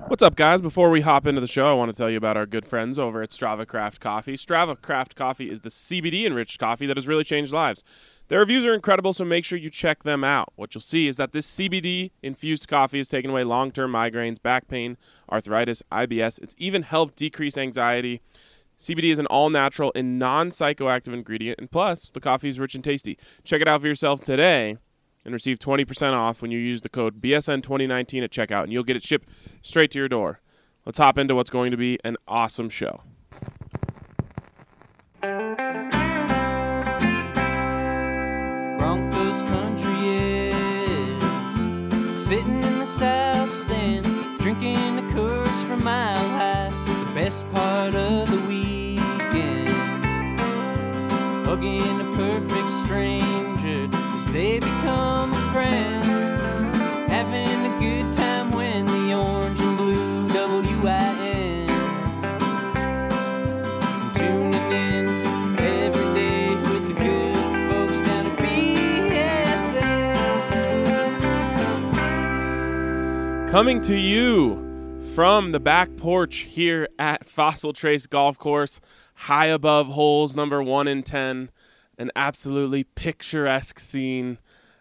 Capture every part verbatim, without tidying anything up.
What's up, guys? Before we hop into the show, I want to tell you about our good friends over at Strava Craft Coffee. Strava Craft Coffee is the C B D-enriched coffee that has really changed lives. Their reviews are incredible, so make sure you check them out. What you'll see is that this C B D-infused coffee has taken away long-term migraines, back pain, arthritis, I B S. It's even helped decrease anxiety. C B D is an all-natural and non-psychoactive ingredient, and plus, the coffee is rich and tasty. Check it out for yourself today and receive twenty percent off when you use the code B S N twenty nineteen at checkout, and you'll get it shipped straight to your door. Let's hop into what's going to be an awesome show. Broncos country is sitting in the south stands, drinking the Coors from Mile High, the best part of the weekend, hugging a perfect stranger as they become a friend, having a good time when the orange and blue W I N, tuning in every day with the good folks down at B S N. Coming to you from the back porch here at Fossil Trace Golf Course, high above holes number one and ten, an absolutely picturesque scene.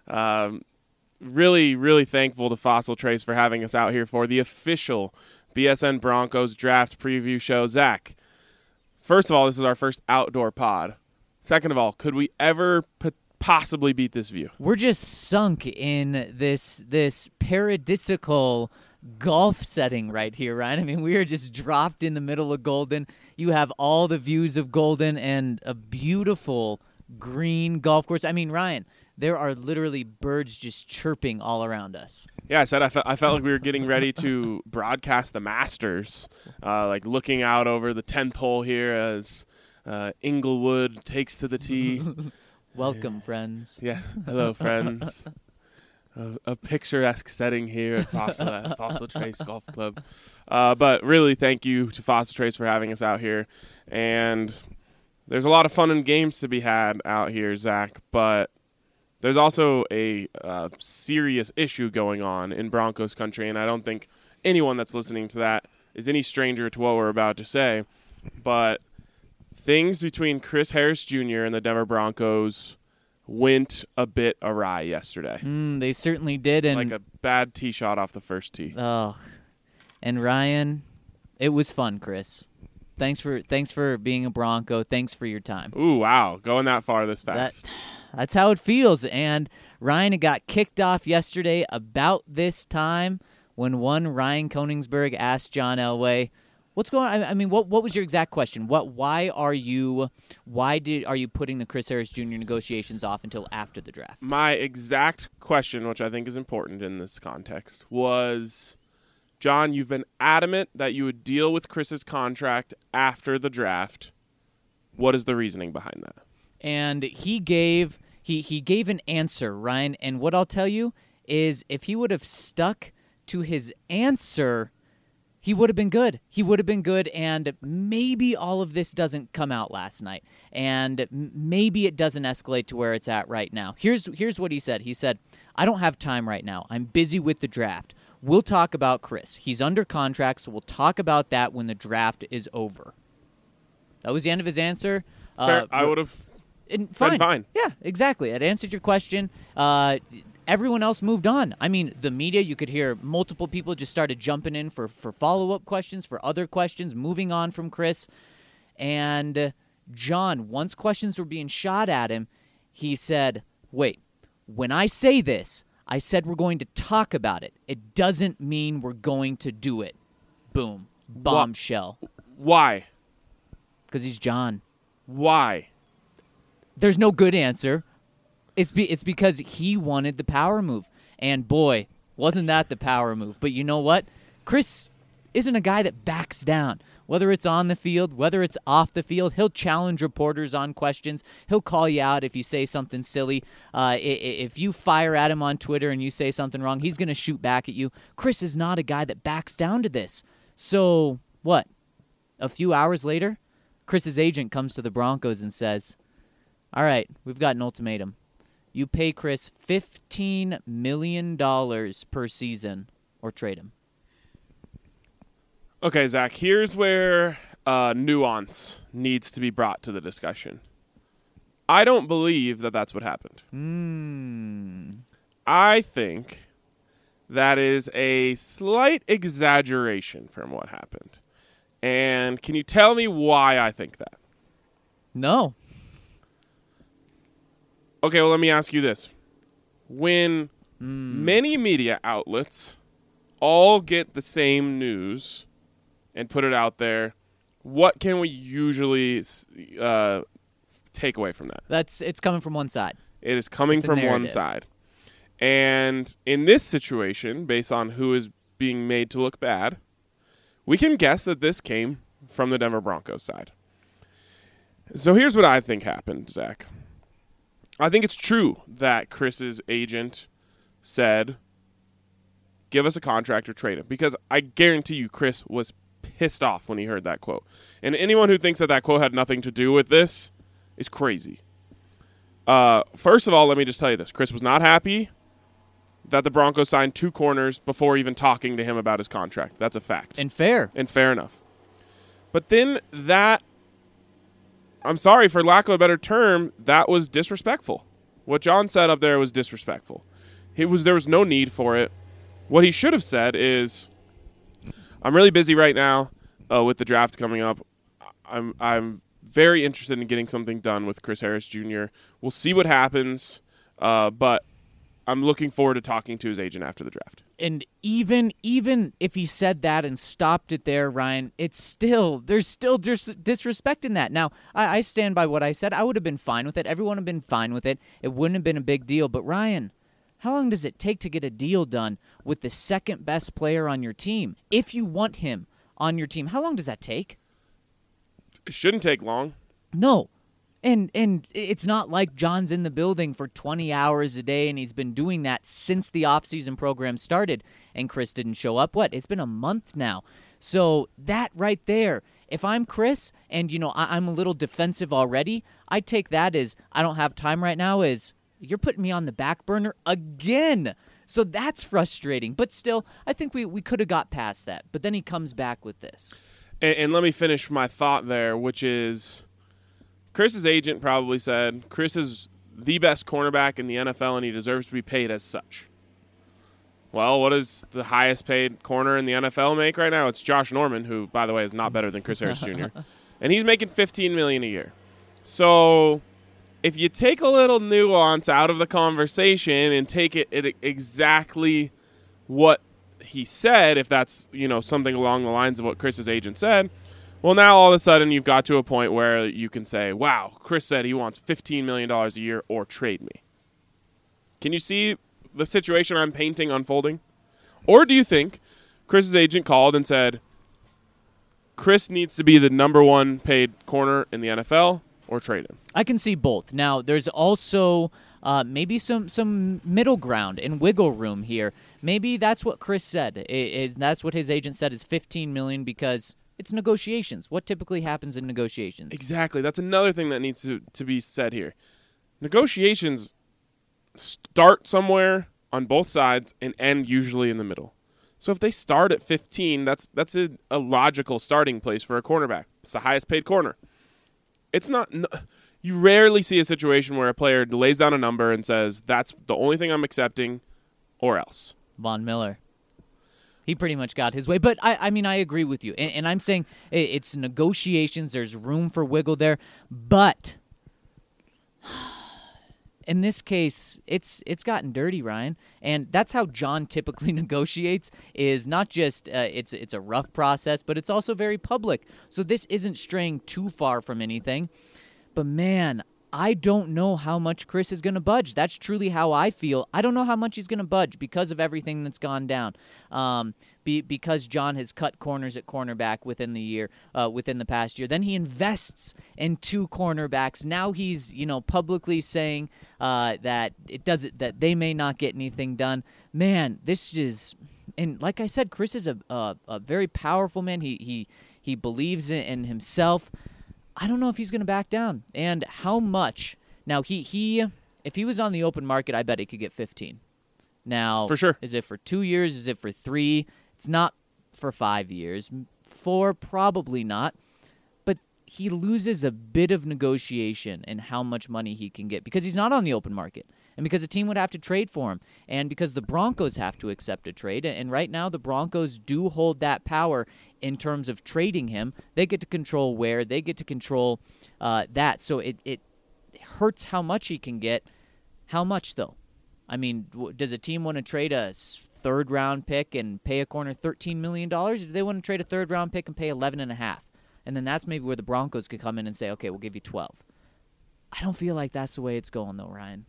Um, really, really thankful to Fossil Trace for having us out here for the official B S N Broncos draft preview show. Zach, first of all, this is our first outdoor pod. Second of all, could we ever p- possibly beat this view? We're just sunk in this this paradisical golf setting right here, Ryan. I mean, we are just dropped in the middle of Golden. You have all the views of Golden and a beautiful green golf course. I mean, Ryan, there are literally birds just chirping all around us. Yeah, I said I, fe- I felt like we were getting ready to broadcast the Masters, uh, like looking out over the tenth hole here as uh, Inglewood takes to the tee. Welcome, friends. Yeah, hello, friends. Uh, a picturesque setting here at Fossil, at Fossil Trace Golf Club. Uh, but really, thank you to Fossil Trace for having us out here. And there's a lot of fun and games to be had out here, Zach, but there's also a uh, serious issue going on in Broncos country, and I don't think anyone that's listening to that is any stranger to what we're about to say. But things between Chris Harris Junior and the Denver Broncos went a bit awry yesterday. Mm, they certainly did. And like a bad tee shot off the first tee. Oh, and Ryan, it was fun, Chris. Thanks for thanks for being a Bronco. Thanks for your time. Ooh, wow. Going that far this fast. That, that's how it feels. And Ryan, it got kicked off yesterday about this time when one Ryan Koenigsberg asked John Elway, what's going on? I mean, what what was your exact question? What why are you why did are you putting the Chris Harris Junior negotiations off until after the draft? My exact question, which I think is important in this context, was, John, you've been adamant that you would deal with Chris's contract after the draft. What is the reasoning behind that? And he gave he he gave an answer, Ryan, and what I'll tell you is if he would have stuck to his answer, he would have been good. He would have been good, and maybe all of this doesn't come out last night, and maybe it doesn't escalate to where it's at right now. Here's here's what he said. He said, I don't have time right now. I'm busy with the draft. We'll talk about Chris. He's under contract, so we'll talk about that when the draft is over. That was the end of his answer. Fair. Uh, I would have and fine. fine. fine. Yeah, exactly. It answered your question. Uh, everyone else moved on. I mean, the media, you could hear multiple people just started jumping in for, for follow-up questions, for other questions, moving on from Chris. And uh, John, once questions were being shot at him, he said, wait, when I say this, I said we're going to talk about it. It doesn't mean we're going to do it. Boom. Bombshell. Why? Because he's John. Why? There's no good answer. It's be, it's because he wanted the power move. And boy, wasn't that the power move. But you know what? Chris isn't a guy that backs down. Whether it's on the field, whether it's off the field, he'll challenge reporters on questions. He'll call you out if you say something silly. Uh, if you fire at him on Twitter and you say something wrong, he's going to shoot back at you. Chris is not a guy that backs down to this. So, what? A few hours later, Chris's agent comes to the Broncos and says, all right, we've got an ultimatum. You pay Chris fifteen million dollars per season or trade him. Okay, Zach, here's where uh, nuance needs to be brought to the discussion. I don't believe that that's what happened. Mm. I think that is a slight exaggeration from what happened. And can you tell me why I think that? No. Okay, well, let me ask you this. When Mm. many media outlets all get the same news and put it out there, what can we usually uh, take away from that? That's it's coming from one side. It is coming It's a from one narrative. side. And in this situation, based on who is being made to look bad, we can guess that this came from the Denver Broncos side. So here's what I think happened, Zach. I think it's true that Chris's agent said, give us a contract or trade him. Because I guarantee you Chris was pissed off when he heard that quote. And anyone who thinks that that quote had nothing to do with this is crazy. Uh, first of all, let me just tell you this. Chris was not happy that the Broncos signed two corners before even talking to him about his contract. That's a fact. And fair. And fair enough. But then that, I'm sorry, for lack of a better term, that was disrespectful. What John said up there was disrespectful. He was There was no need for it. What he should have said is, I'm really busy right now uh, with the draft coming up. I'm I'm very interested in getting something done with Chris Harris Junior We'll see what happens, uh, but I'm looking forward to talking to his agent after the draft. And even even if he said that and stopped it there, Ryan, it's still there's still dis- disrespect in that. Now, I, I stand by what I said. I would have been fine with it. Everyone would have been fine with it. It wouldn't have been a big deal. But Ryan, how long does it take to get a deal done with the second best player on your team? If you want him on your team, how long does that take? It shouldn't take long. No. And and it's not like John's in the building for twenty hours a day, and he's been doing that since the offseason program started, and Chris didn't show up. What? It's been a month now. So that right there, if I'm Chris and, you know, I, I'm a little defensive already, I take that as I don't have time right now as you're putting me on the back burner again. So that's frustrating. But still, I think we, we could have got past that. But then he comes back with this. And, and let me finish my thought there, which is Chris's agent probably said Chris is the best cornerback in the N F L and he deserves to be paid as such. Well, what does the highest paid corner in the N F L make right now? It's Josh Norman, who, by the way, is not better than Chris Harris Junior And he's making fifteen million dollars a year. So if you take a little nuance out of the conversation and take it at exactly what he said, if that's, you know, something along the lines of what Chris's agent said, well, now all of a sudden you've got to a point where you can say, wow, Chris said he wants fifteen million dollars a year or trade me. Can you see the situation I'm painting unfolding? Or do you think Chris's agent called and said, Chris needs to be the number one paid corner in the N F L or trade him? I can see both. Now, there's also uh, maybe some, some middle ground and wiggle room here. Maybe that's what Chris said. It, it, that's what his agent said is fifteen million dollars because it's negotiations. What typically happens in negotiations? Exactly. That's another thing that needs to, to be said here. Negotiations start somewhere on both sides and end usually in the middle. So if they start at fifteen, that's that's a, a logical starting place for a cornerback. It's the highest paid corner. It's not no, you rarely see a situation where a player lays down a number and says, that's the only thing I'm accepting or else. Von Miller. He pretty much got his way. But, I, I mean, I agree with you. And, and I'm saying it's negotiations. There's room for wiggle there. But in this case, it's it's gotten dirty, Ryan. And that's how John typically negotiates, is not just uh, it's it's a rough process, but it's also very public. So this isn't straying too far from anything. But, man, I don't know how much Chris is going to budge. That's truly how I feel. I don't know how much he's going to budge because of everything that's gone down. Um, be, because John has cut corners at cornerback within the year, uh, within the past year. Then he invests in two cornerbacks. Now he's, you know, publicly saying uh, that it doesn't, that they may not get anything done. Man, this is, and like I said, Chris is a a, a very powerful man. He he he believes in, in himself. I don't know if he's going to back down. And how much? Now, he, he, if he was on the open market, I bet he could get fifteen. Now, For sure. Is it for two years? Is it for three? It's not for five years. for? Probably not. But he loses a bit of negotiation in how much money he can get because he's not on the open market and because a team would have to trade for him and because the Broncos have to accept a trade. And right now the Broncos do hold that power in terms of trading him. They get to control where. They get to control uh, that. So it, it hurts how much he can get. How much, though? I mean, w- does a team want to trade a third-round pick and pay a corner thirteen million dollars? Or do they want to trade a third-round pick and pay eleven and a half dollars? And then that's maybe where the Broncos could come in and say, okay, we'll give you twelve. I don't feel like that's the way it's going, though, Ryan.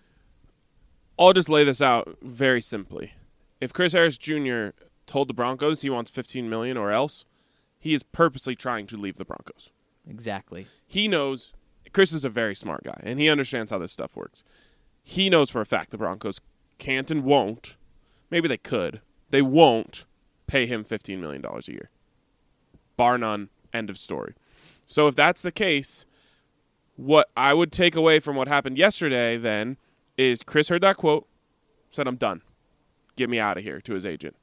I'll just lay this out very simply. If Chris Harris Junior told the Broncos he wants fifteen million dollars or else, he is purposely trying to leave the Broncos. Exactly. He knows Chris is a very smart guy, and he understands how this stuff works. He knows for a fact the Broncos can't and won't, maybe they could, they won't pay him fifteen million dollars a year. Bar none, end of story. So if that's the case, what I would take away from what happened yesterday then is Chris heard that quote, said, I'm done. Get me out of here, to his agent.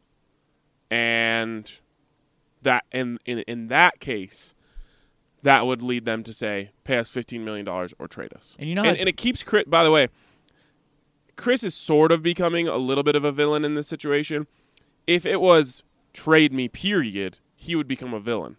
And that in, in in that case, that would lead them to say, pay us fifteen million dollars or trade us. And you know, and, and it keeps Chris, by the way, Chris is sort of becoming a little bit of a villain in this situation. If it was trade me, period, he would become a villain.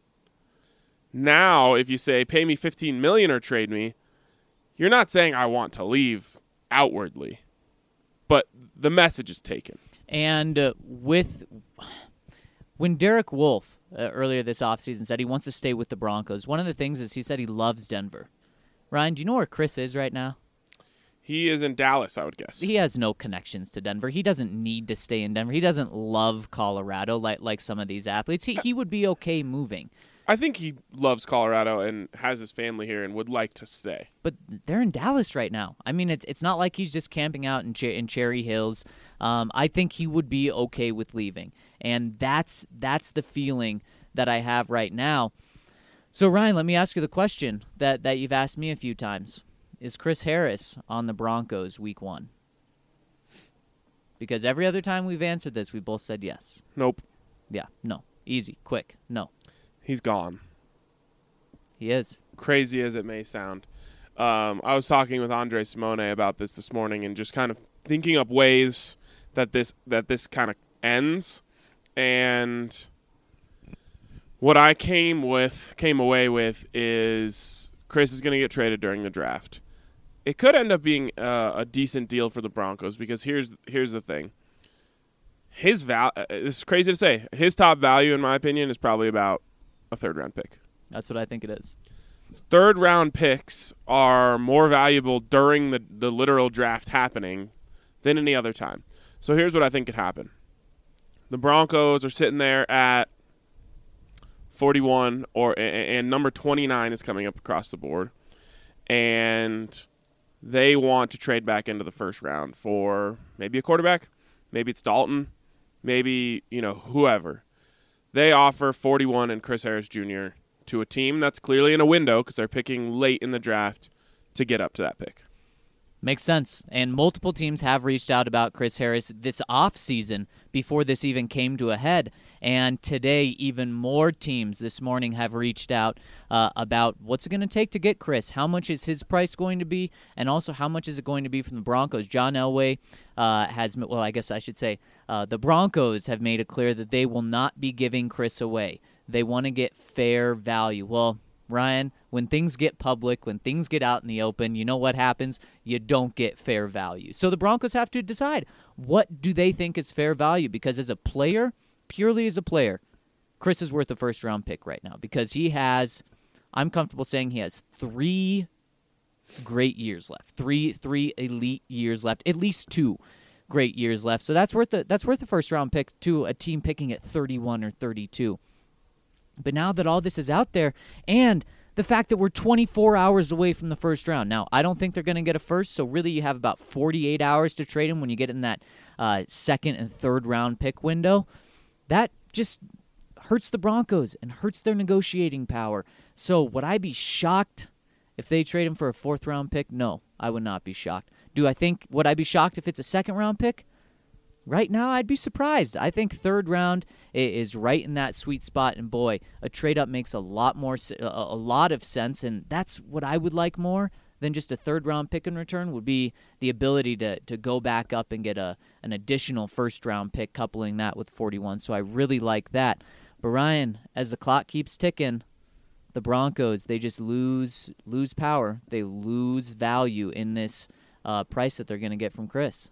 Now, if you say, pay me fifteen million dollars or trade me, you're not saying I want to leave outwardly, but the message is taken. And uh, with when Derek Wolfe uh, earlier this offseason said he wants to stay with the Broncos, one of the things is he said he loves Denver. Ryan, do you know where Chris is right now? He is in Dallas, I would guess. He has no connections to Denver. He doesn't need to stay in Denver. He doesn't love Colorado like like some of these athletes. He he would be okay moving. I think he loves Colorado and has his family here and would like to stay. But they're in Dallas right now. I mean, it's it's not like he's just camping out in, Cher- in Cherry Hills. Um, I think he would be okay with leaving, and that's that's the feeling that I have right now. So, Ryan, let me ask you the question that, that you've asked me a few times. Is Chris Harris on the Broncos week one? Because every other time we've answered this, we both said yes. Nope. Yeah, no. Easy, quick, no. He's gone. He is. Crazy as it may sound. Um, I was talking with Andre Simone about this this morning and just kind of thinking up ways that this that this kind of ends. And what I came with, came away with is Chris is going to get traded during the draft. It could end up being uh, a decent deal for the Broncos because here's here's the thing. His val it's crazy to say. His top value, in my opinion, is probably about a third round pick. That's what I think it is. Third round picks are more valuable during the, the literal draft happening than any other time. So here's what I think could happen. The Broncos are sitting there at forty-one, or and number twenty-nine is coming up across the board, and they want to trade back into the first round for maybe a quarterback, maybe it's Dalton, maybe, you know, whoever. They offer forty-one and Chris Harris Junior to a team that's clearly in a window because they're picking late in the draft to get up to that pick. Makes sense. And multiple teams have reached out about Chris Harris this offseason before this even came to a head. And today, even more teams this morning have reached out uh, about what's it going to take to get Chris. How much is his price going to be? And also, how much is it going to be from the Broncos? John Elway uh, has, well, I guess I should say, uh, the Broncos have made it clear that they will not be giving Chris away. They want to get fair value. Well, Ryan, when things get public, when things get out in the open, you know what happens? You don't get fair value. So the Broncos have to decide, what do they think is fair value? Because as a player, purely as a player, Chris is worth a first-round pick right now because he has, I'm comfortable saying he has three great years left, three three elite years left, at least two great years left. So that's worth the, that's worth a first-round pick to a team picking at thirty-one or thirty-two. But now that all this is out there, and the fact that we're twenty-four hours away from the first round. Now, I don't think they're going to get a first, so really you have about forty-eight hours to trade him when you get in that uh, second and third round pick window. That just hurts the Broncos and hurts their negotiating power. So would I be shocked if they trade him for a fourth round pick? No, I would not be shocked. Do I think, would I be shocked if it's a second round pick? Right now, I'd be surprised. I think third round i- is right in that sweet spot, and boy, a trade up makes a lot more, s- a, a lot of sense, and that's what I would like more than just a third round pick in return. Would be the ability to to go back up and get a an additional first round pick, coupling that with forty-one. So I really like that. But Ryan, as the clock keeps ticking, the Broncos, they just lose lose power. They lose value in this uh, price that they're going to get from Chris.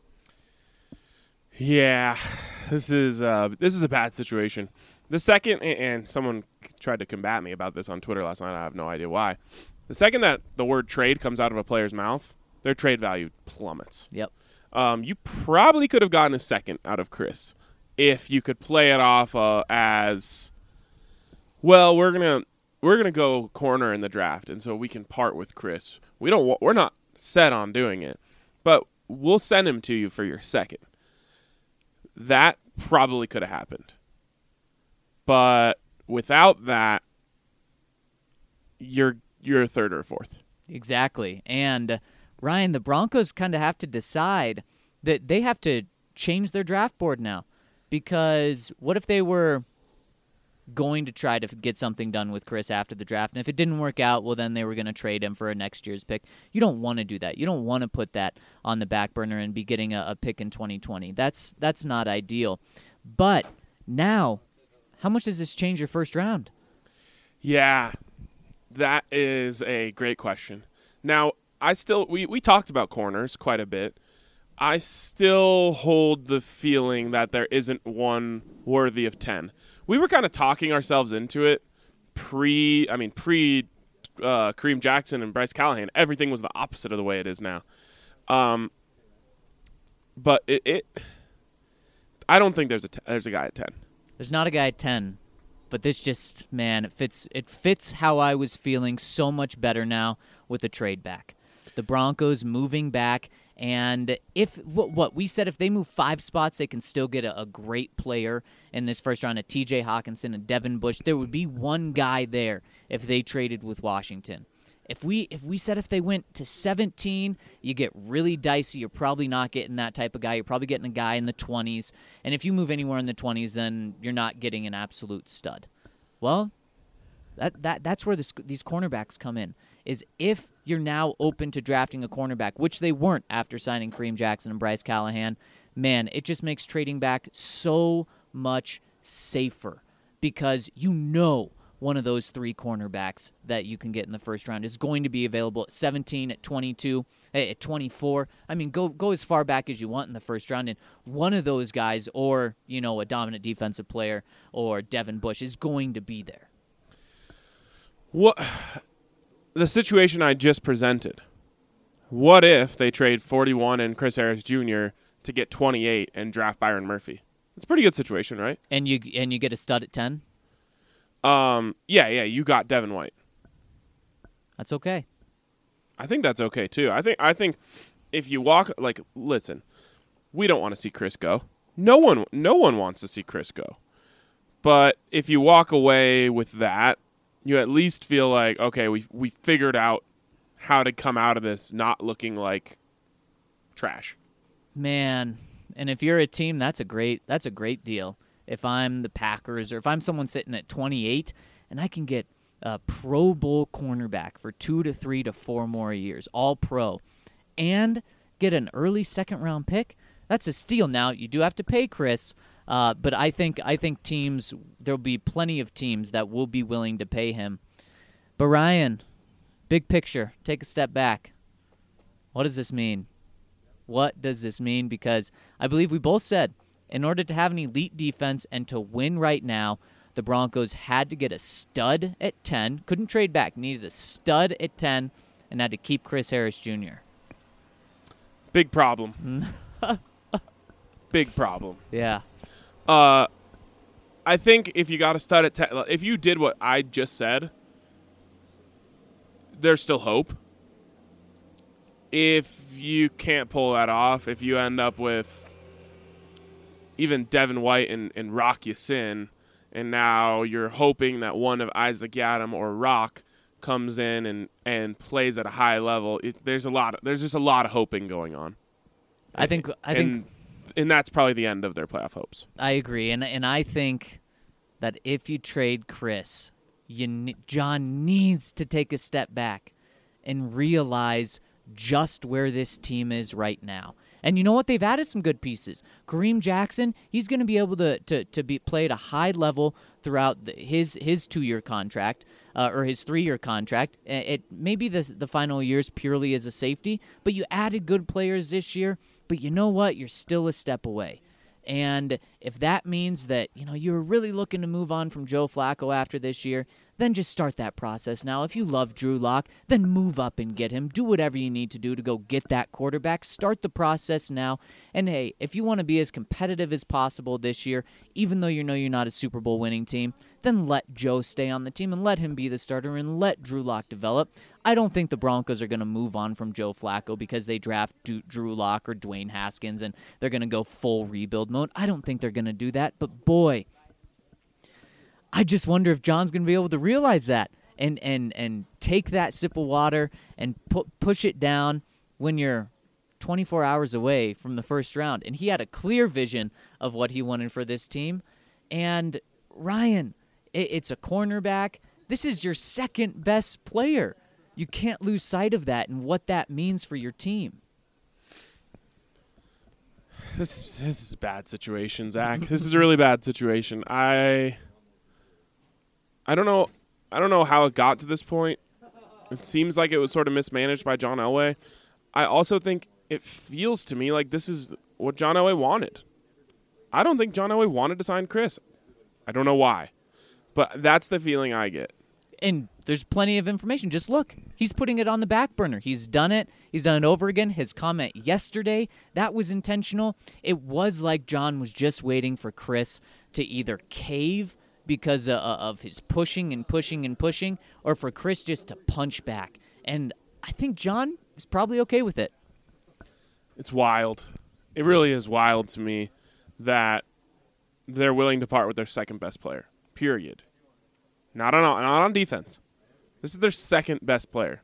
Yeah, this is uh, this is a bad situation. The second, and someone tried to combat me about this on Twitter last night. I have no idea why. The second that the word trade comes out of a player's mouth, their trade value plummets. Yep. Um, you probably could have gotten a second out of Chris if you could play it off uh, as, well, we're gonna we're gonna go corner in the draft, and so we can part with Chris. We don't. We're not set on doing it, but we'll send him to you for your second. That probably could have happened. But without that, you're you're a third or a fourth. Exactly. And Ryan, the Broncos kind of have to decide that they have to change their draft board now. Because what if they were going to try to get something done with Chris after the draft, and if it didn't work out, well, then they were going to trade him for a next year's pick. You don't want to do that. You don't want to put that on the back burner and be getting a, a pick in twenty twenty. That's that's not ideal. But now, how much does this change your first round? Yeah, that is a great question. Now, I still we, we talked about corners quite a bit. I still hold the feeling that there isn't one worthy of ten. We were kind of talking ourselves into it pre, I mean, pre uh, Kareem Jackson and Bryce Callahan. Everything was the opposite of the way it is now. Um, but it, it, I don't think there's a t- there's a guy at ten. There's not a guy at ten, but this just, man, it fits. It fits how I was feeling so much better now with the trade back. The Broncos moving back. And if what, what we said, if they move five spots, they can still get a, a great player in this first round, a T J Hawkinson, a Devin Bush. There would be one guy there if they traded with Washington. If we if we said if they went to seventeen, you get really dicey. You're probably not getting that type of guy. You're probably getting a guy in the twenties. And if you move anywhere in the twenties, then you're not getting an absolute stud. Well, that that that's where this, these cornerbacks come in. Is if you're now open to drafting a cornerback, which they weren't after signing Kareem Jackson and Bryce Callahan, man, it just makes trading back so much safer because you know one of those three cornerbacks that you can get in the first round is going to be available at seventeen, at twenty-two, at twenty-four. I mean, go go as far back as you want in the first round, and one of those guys, or you know, a dominant defensive player, or Devin Bush, is going to be there. What? The situation I just presented, what if they trade forty-one and Chris Harris Junior to get twenty-eight and draft Byron Murphy? It's a pretty good situation, right? And you and you get a stud at ten? Um, yeah, yeah, you got Devin White. That's okay. I think that's okay, too. I think I think if you walk, like, listen, we don't want to see Chris go. No one, no one wants to see Chris go. But if you walk away with that, you at least feel like, okay, we we figured out how to come out of this not looking like trash. Man, and if you're a team, that's a great that's a great deal. If I'm the Packers or if I'm someone sitting at twenty-eight and I can get a Pro Bowl cornerback for two to three to four more years, all pro, and get an early second round pick, that's a steal. Now, you do have to pay Chris. Uh, but I think I think teams, there'll be plenty of teams that will be willing to pay him. But Ryan, big picture, take a step back. What does this mean? What does this mean? Because I believe we both said, in order to have an elite defense and to win right now, the Broncos had to get a stud at ten, couldn't trade back, needed a stud at ten, and had to keep Chris Harris Junior Big problem. Big problem. Yeah. Uh, I think if you got a stud at ten, if you did what I just said, there's still hope. If you can't pull that off, if you end up with even Devin White and, and Rock Ya-Sin, and now you're hoping that one of Isaac Yiadom or Rock comes in and, and plays at a high level, it, there's a lot. Of, there's just a lot of hoping going on. I think I think and and that's probably the end of their playoff hopes. I agree, and and I think that if you trade Chris, you ne- John needs to take a step back and realize just where this team is right now. And you know what? They've added some good pieces. Kareem Jackson, he's going to be able to to to be play at a high level throughout the, his his two year contract uh, or his three year contract. It maybe the the final years purely as a safety, but you added good players this year. But you know what? You're still a step away. And if that means that, you know, you're really looking to move on from Joe Flacco after this year, then just start that process now. If you love Drew Lock, then move up and get him. Do whatever you need to do to go get that quarterback. Start the process now. And hey, if you want to be as competitive as possible this year, even though you know you're not a Super Bowl winning team, then let Joe stay on the team and let him be the starter and let Drew Lock develop. I don't think the Broncos are going to move on from Joe Flacco because they draft Drew Lock or Dwayne Haskins and they're going to go full rebuild mode. I don't think they're going to do that. But boy, I just wonder if John's going to be able to realize that and and and take that sip of water and pu- push it down when you're twenty-four hours away from the first round. And he had a clear vision of what he wanted for this team. And Ryan, it, it's a cornerback. This is your second best player. You can't lose sight of that and what that means for your team. This this is a bad situation, Zach. This is a really bad situation. I I don't know I don't know how it got to this point. It seems like it was sort of mismanaged by John Elway. I also think it feels to me like this is what John Elway wanted. I don't think John Elway wanted to sign Chris. I don't know why. But that's the feeling I get. And there's plenty of information. Just look. He's putting it on the back burner. He's done it. He's done it over again. His comment yesterday, that was intentional. It was like John was just waiting for Chris to either cave because uh, of his pushing and pushing and pushing, or for Chris just to punch back. And I think John is probably okay with it. It's wild. It really is wild to me that they're willing to part with their second best player, period. Not on not on defense. This is their second best player.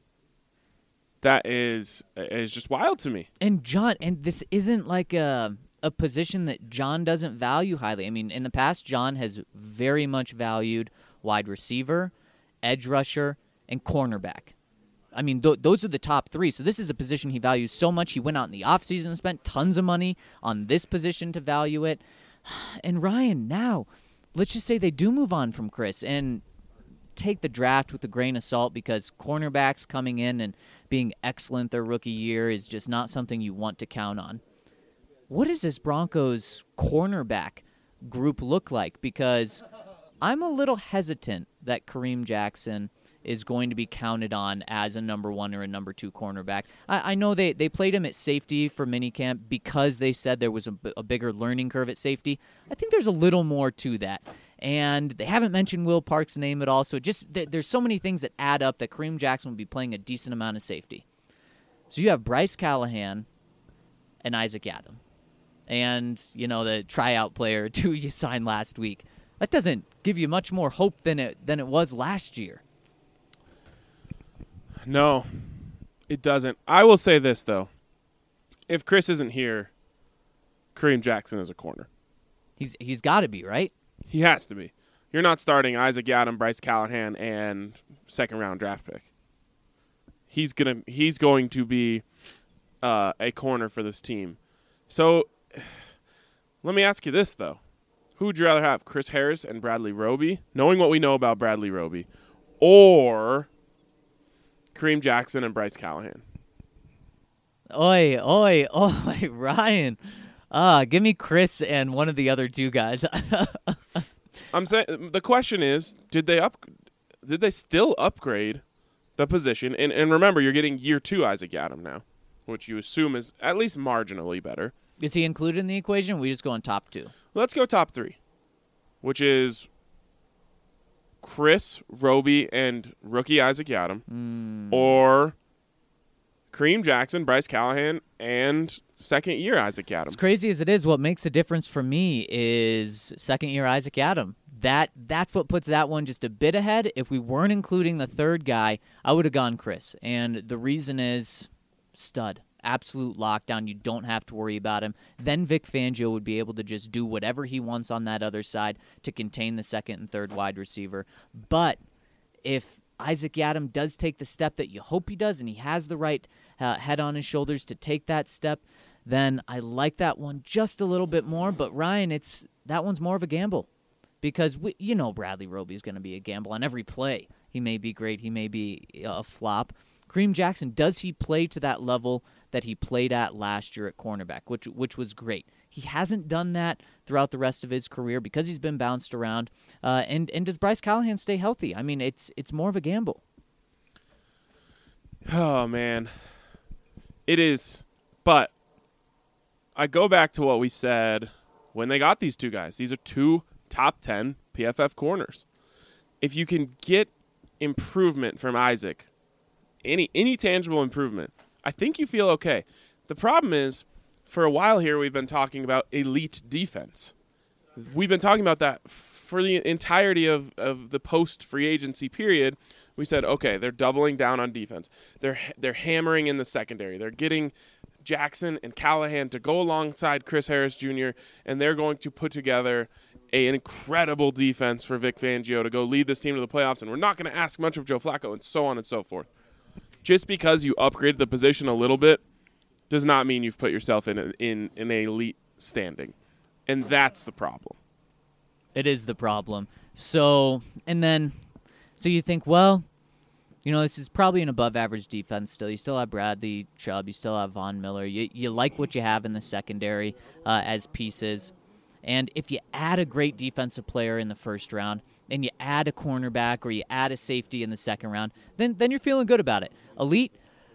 That is is just wild to me. And John, and this isn't like a a position that John doesn't value highly. I mean, in the past, John has very much valued wide receiver, edge rusher, and cornerback. I mean, th- those are the top three. So this is a position he values so much. He went out in the offseason and spent tons of money on this position to value it. And Ryan, now, let's just say they do move on from Chris and take the draft with a grain of salt, because cornerbacks coming in and being excellent their rookie year is just not something you want to count on. What does this Broncos cornerback group look like? Because I'm a little hesitant that Kareem Jackson is going to be counted on as a number one or a number two cornerback. I, I know they, they played him at safety for minicamp because they said there was a, a bigger learning curve at safety. I think there's a little more to that. And they haven't mentioned Will Park's name at all, so just th- there's so many things that add up that Kareem Jackson will be playing a decent amount of safety. So you have Bryce Callahan and Isaac Yiadom, and you know the tryout player who you signed last week. That doesn't give you much more hope than it than it was last year. No, it doesn't. I will say this though: if Chris isn't here, Kareem Jackson is a corner. He's he's got to be, right? He has to be. You're not starting Isaac Yiadom, Bryce Callahan, and second round draft pick. He's gonna. He's going to be uh, a corner for this team. So, let me ask you this though: who would you rather have, Chris Harris and Bradley Roby, knowing what we know about Bradley Roby, or Kareem Jackson and Bryce Callahan? Oi, oi, oi, Ryan. Ah, give me Chris and one of the other two guys. I'm saying the question is, did they up? Did they still upgrade the position? And and remember, you're getting year two Isaac Yiadom now, which you assume is at least marginally better. Is he included in the equation? Or we just go on top two. Let's go top three, which is Chris, Roby, and rookie Isaac Yiadom, mm. or Kareem Jackson, Bryce Callahan, and second-year Isaac Yiadom. As crazy as it is, what makes a difference for me is second-year Isaac Yiadom. That that's what puts that one just a bit ahead. If we weren't including the third guy, I would have gone Chris, and the reason is stud. absolute lockdown. You don't have to worry about him. Then Vic Fangio would be able to just do whatever he wants on that other side to contain the second and third wide receiver. But if Isaac Yiadom does take the step that you hope he does, and he has the right uh, head on his shoulders to take that step, then I like that one just a little bit more. But Ryan, it's that one's more of a gamble because we, you know Bradley Roby is going to be a gamble on every play. He may be great, he may be a flop. Kareem Jackson, does he play to that level that he played at last year at cornerback, which which was great? He hasn't done that throughout the rest of his career because he's been bounced around. Uh, and and does Bryce Callahan stay healthy? I mean, it's it's more of a gamble. Oh man, it is. But I go back to what we said when they got these two guys. These are two top ten P F F corners. If you can get improvement from Isaac, any any tangible improvement, I think you feel okay. The problem is, for a while here, we've been talking about elite defense. We've been talking about that for the entirety of, of the post-free agency period. We said, okay, they're doubling down on defense. They're they're hammering in the secondary. They're getting Jackson and Callahan to go alongside Chris Harris Junior, and they're going to put together a, an incredible defense for Vic Fangio to go lead this team to the playoffs, and we're not going to ask much of Joe Flacco, and so on and so forth. Just because you upgraded the position a little bit does not mean you've put yourself in a, in an elite standing, and that's the problem. It is the problem. So, and then, so you think, well, you know, this is probably an above-average defense still. You still have Bradley Chubb. You still have Von Miller. You, you like what you have in the secondary uh, as pieces. And if you add a great defensive player in the first round and you add a cornerback or you add a safety in the second round, then then you're feeling good about it. Elite,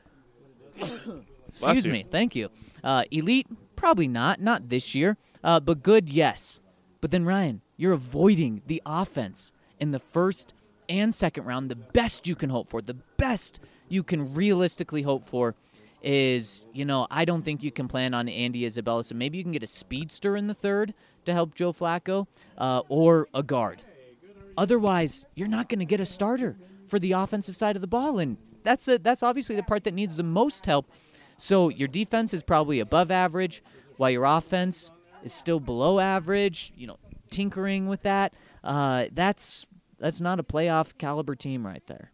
excuse me, thank you. Uh, elite, probably not, not this year, uh, but good, yes. But then, Ryan, you're avoiding the offense in the first and second round. The best you can hope for, the best you can realistically hope for is, you know, I don't think you can plan on Andy Isabella, so maybe you can get a speedster in the third to help Joe Flacco, uh, or a guard. Otherwise, you're not going to get a starter for the offensive side of the ball, and that's a, that's obviously the part that needs the most help. So your defense is probably above average, while your offense is still below average, you know, tinkering with that. Uh, that's that's not a playoff caliber team right there.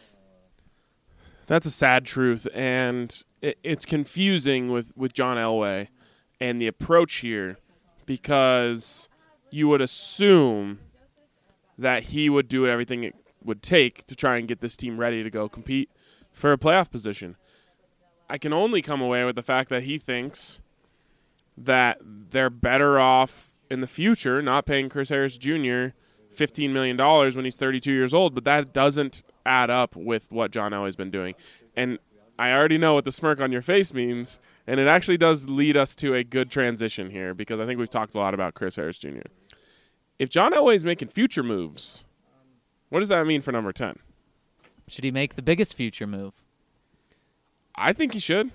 That's a sad truth, and it, it's confusing with, with John Elway and the approach here, because you would assume that he would do everything it would take to try and get this team ready to go compete for a playoff position. I can only come away with the fact that he thinks that they're better off in the future not paying Chris Harris Junior fifteen million dollars when he's thirty-two years old, but that doesn't add up with what John Elway's been doing. And I already know what the smirk on your face means, and it actually does lead us to a good transition here, because I think we've talked a lot about Chris Harris Junior If John Elway's making future moves, what does that mean for number ten? Should he make the biggest future move? I think he should.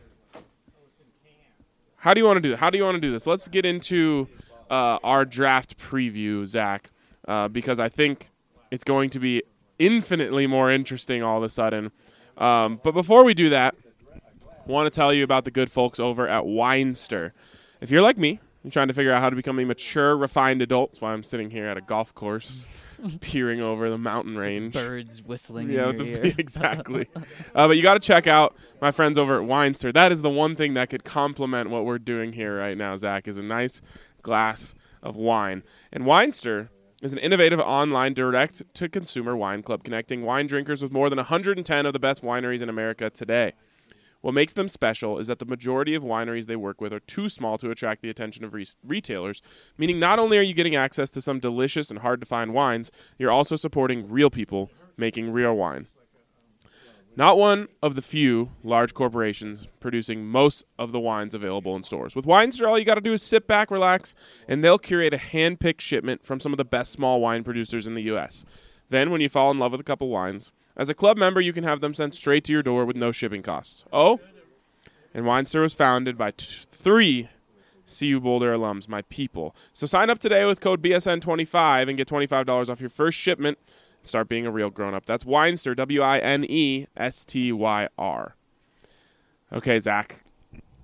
How do you want to do How do you want to do this? Let's get into uh, our draft preview, Zach, uh, because I think it's going to be infinitely more interesting all of a sudden. Um, but before we do that, I want to tell you about the good folks over at Weinster. If you're like me, you're trying to figure out how to become a mature, refined adult. That's why I'm sitting here at a golf course, peering over the mountain range. Birds whistling yeah, in your the, ear. Exactly. uh, but you got to check out my friends over at Weinster. That is the one thing that could complement what we're doing here right now, Zach, is a nice glass of wine. And Weinster is an innovative online direct-to-consumer wine club connecting wine drinkers with more than one hundred ten of the best wineries in America today. What makes them special is that the majority of wineries they work with are too small to attract the attention of re- retailers, meaning not only are you getting access to some delicious and hard-to-find wines, you're also supporting real people making real wine. Not one of the few large corporations producing most of the wines available in stores. With Weinster, all you got to do is sit back, relax, and they'll curate a hand-picked shipment from some of the best small wine producers in the U S Then, when you fall in love with a couple wines, as a club member, you can have them sent straight to your door with no shipping costs. Oh, and Weinster was founded by t- three C U Boulder alums, my people. So sign up today with code B S N twenty-five and get twenty-five dollars off your first shipment. Start being a real grown-up. That's Weinster, W I N E S T Y R. Okay, Zach.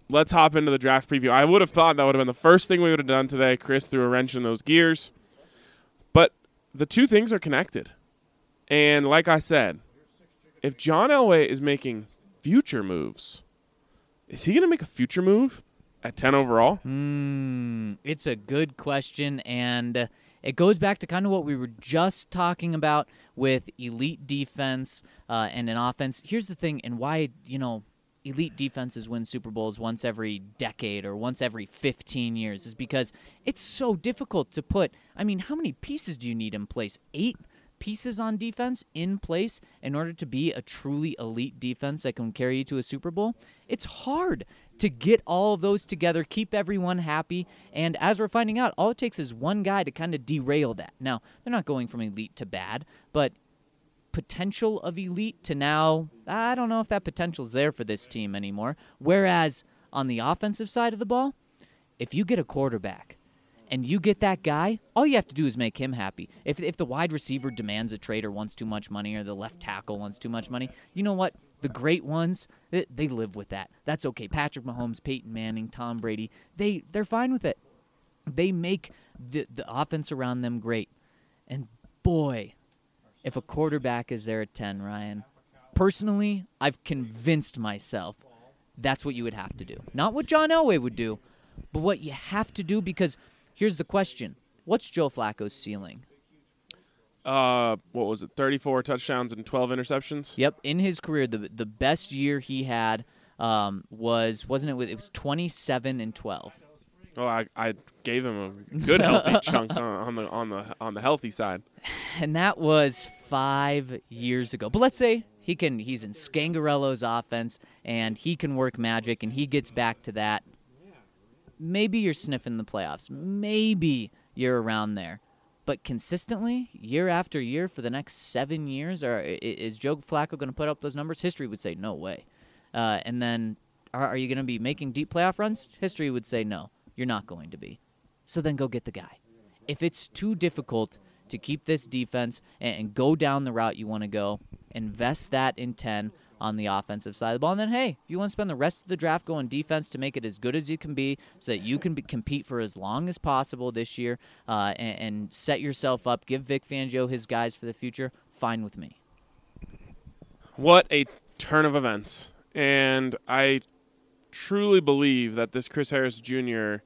let's hop into the draft preview. I would have thought that would have been the first thing we would have done today. Chris threw a wrench in those gears. But the two things are connected. And like I said, if John Elway is making future moves, is he going to make a future move at ten overall? Mm, it's a good question, and uh, it goes back to kind of what we were just talking about with elite defense uh, and an offense. Here's the thing, and why, you know, elite defenses win Super Bowls once every decade or once every fifteen years is because it's so difficult to put, I mean, how many pieces do you need in place? Eight pieces on defense in place in order to be a truly elite defense that can carry you to a Super Bowl? It's hard to get all of those together, keep everyone happy, and as we're finding out, all it takes is one guy to kind of derail that. Now, they're not going from elite to bad, but potential of elite to now, I don't know if that potential's there for this team anymore. Whereas on the offensive side of the ball, if you get a quarterback and you get that guy, all you have to do is make him happy. If if the wide receiver demands a trade or wants too much money or the left tackle wants too much money, you know what? The great ones, they, they live with that. That's okay. Patrick Mahomes, Peyton Manning, Tom Brady, they, they're fine with it. They make the, the offense around them great. And boy, if a quarterback is there at ten, Ryan, personally, I've convinced myself that's what you would have to do. Not what John Elway would do, but what you have to do, because here's the question. What's Joe Flacco's ceiling? Uh, what was it, thirty-four touchdowns and twelve interceptions? Yep, in his career, the the best year he had um, was, wasn't it, with, it was twenty-seven and twelve. Oh, I, I gave him a good healthy chunk on, on the on the on the healthy side. And that was five years ago. But let's say he can he's in Scangarello's offense and he can work magic and he gets back to that. Maybe you're sniffing the playoffs. Maybe you're around there. But consistently, year after year for the next seven years, or is Joe Flacco going to put up those numbers? History would say no way. Uh, and then are, are you going to be making deep playoff runs? History would say no. You're not going to be. So then go get the guy. If it's too difficult to keep this defense and, and go down the route you want to go, invest that in ten on the offensive side of the ball. And then, hey, if you want to spend the rest of the draft going defense to make it as good as you can be so that you can be, compete for as long as possible this year uh, and, and set yourself up, give Vic Fangio his guys for the future, fine with me. What a turn of events. And I truly believe that this Chris Harris Junior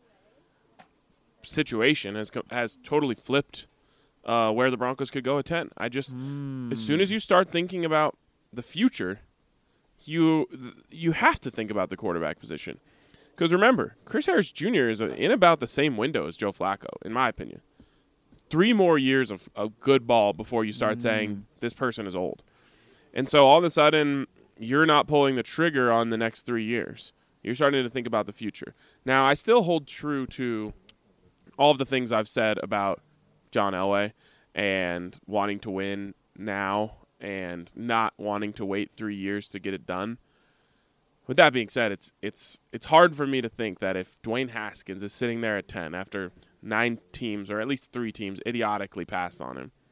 situation has has totally flipped uh, where the Broncos could go at ten. I just, mm. as soon as you start thinking about the future, you you have to think about the quarterback position. Because remember, Chris Harris Junior is in about the same window as Joe Flacco, in my opinion. Three more years of, of good ball before you start mm. saying this person is old. And so all of a sudden, you're not pulling the trigger on the next three years. You're starting to think about the future. Now, I still hold true to all of the things I've said about John Elway and wanting to win now and not wanting to wait three years to get it done. With that being said, it's it's it's hard for me to think that if Dwayne Haskins is sitting there at ten after nine teams, or at least three teams, idiotically passed on him,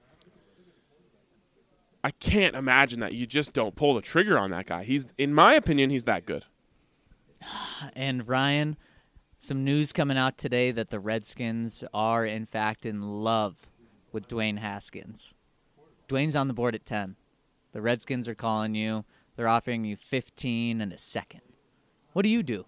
I can't imagine that you just don't pull the trigger on that guy. He's, in my opinion, he's that good. And Ryan, some news coming out today that the Redskins are, in fact, in love with Dwayne Haskins. Dwayne's on the board at ten. The Redskins are calling you. They're offering you fifteen and a second. What do you do?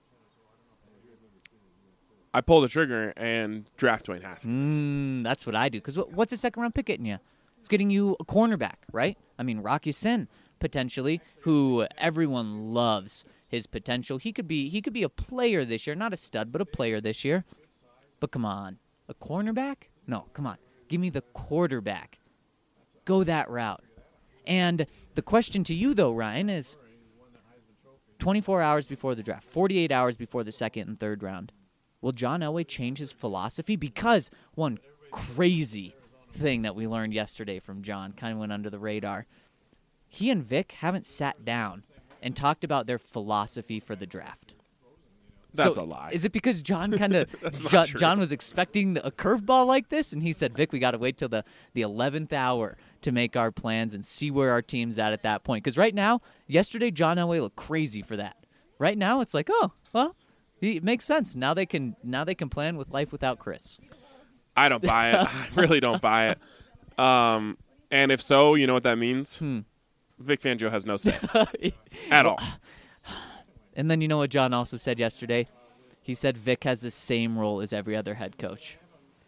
I pull the trigger and draft Dwayne Haskins. Mm, that's what I do. Because what's a second-round pick getting you? It's getting you a cornerback, right? I mean, Rocky Sin, potentially, who everyone loves his potential. He could be he could be a player this year. Not a stud, but a player this year. But come on. A cornerback? No, come on. Give me the quarterback. Go that route. And the question to you, though, Ryan, is twenty-four hours before the draft, forty-eight hours before the second and third round, will John Elway change his philosophy? Because one crazy thing that we learned yesterday from John kind of went under the radar. He and Vic haven't sat down and talked about their philosophy for the draft. That's so a lie. Is it because John kind of John, John was expecting a curveball like this, and he said, "Vic, we got to wait till the the eleventh hour to make our plans and see where our team's at at that point." Because right now, yesterday, John Elway looked crazy for that. Right now, it's like, oh, Well, it makes sense. Now they can now they can plan with life without Chris. I don't buy it. I really don't buy it. Um, and if so, you know what that means? Hmm. Vic Fangio has no say at all. And then you know what John also said yesterday? He said Vic has the same role as every other head coach.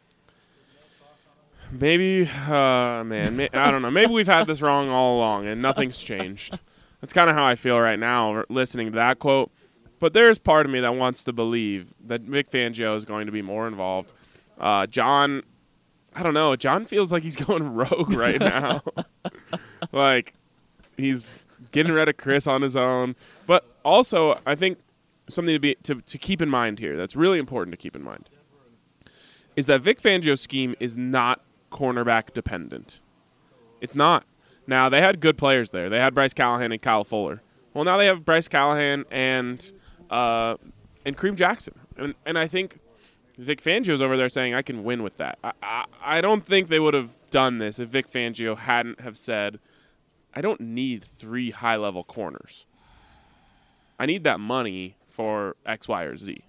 Maybe, uh, man, may, I don't know. Maybe we've had this wrong all along, and nothing's changed. That's kind of how I feel right now, listening to that quote. But there's part of me that wants to believe that Vic Fangio is going to be more involved. Uh, John, I don't know. John feels like he's going rogue right now. Like, he's getting rid of Chris on his own. But also, I think something to be to, to keep in mind here that's really important to keep in mind is that Vic Fangio's scheme is not cornerback dependent. It's not. Now, they had good players there. They had Bryce Callahan and Kyle Fuller. Well, now they have Bryce Callahan and uh, and Kareem Jackson. And, and I think Vic Fangio's over there saying, I can win with that. I, I, I don't think they would have done this if Vic Fangio hadn't have said, I don't need three high-level corners. I need that money for X, Y, or Z.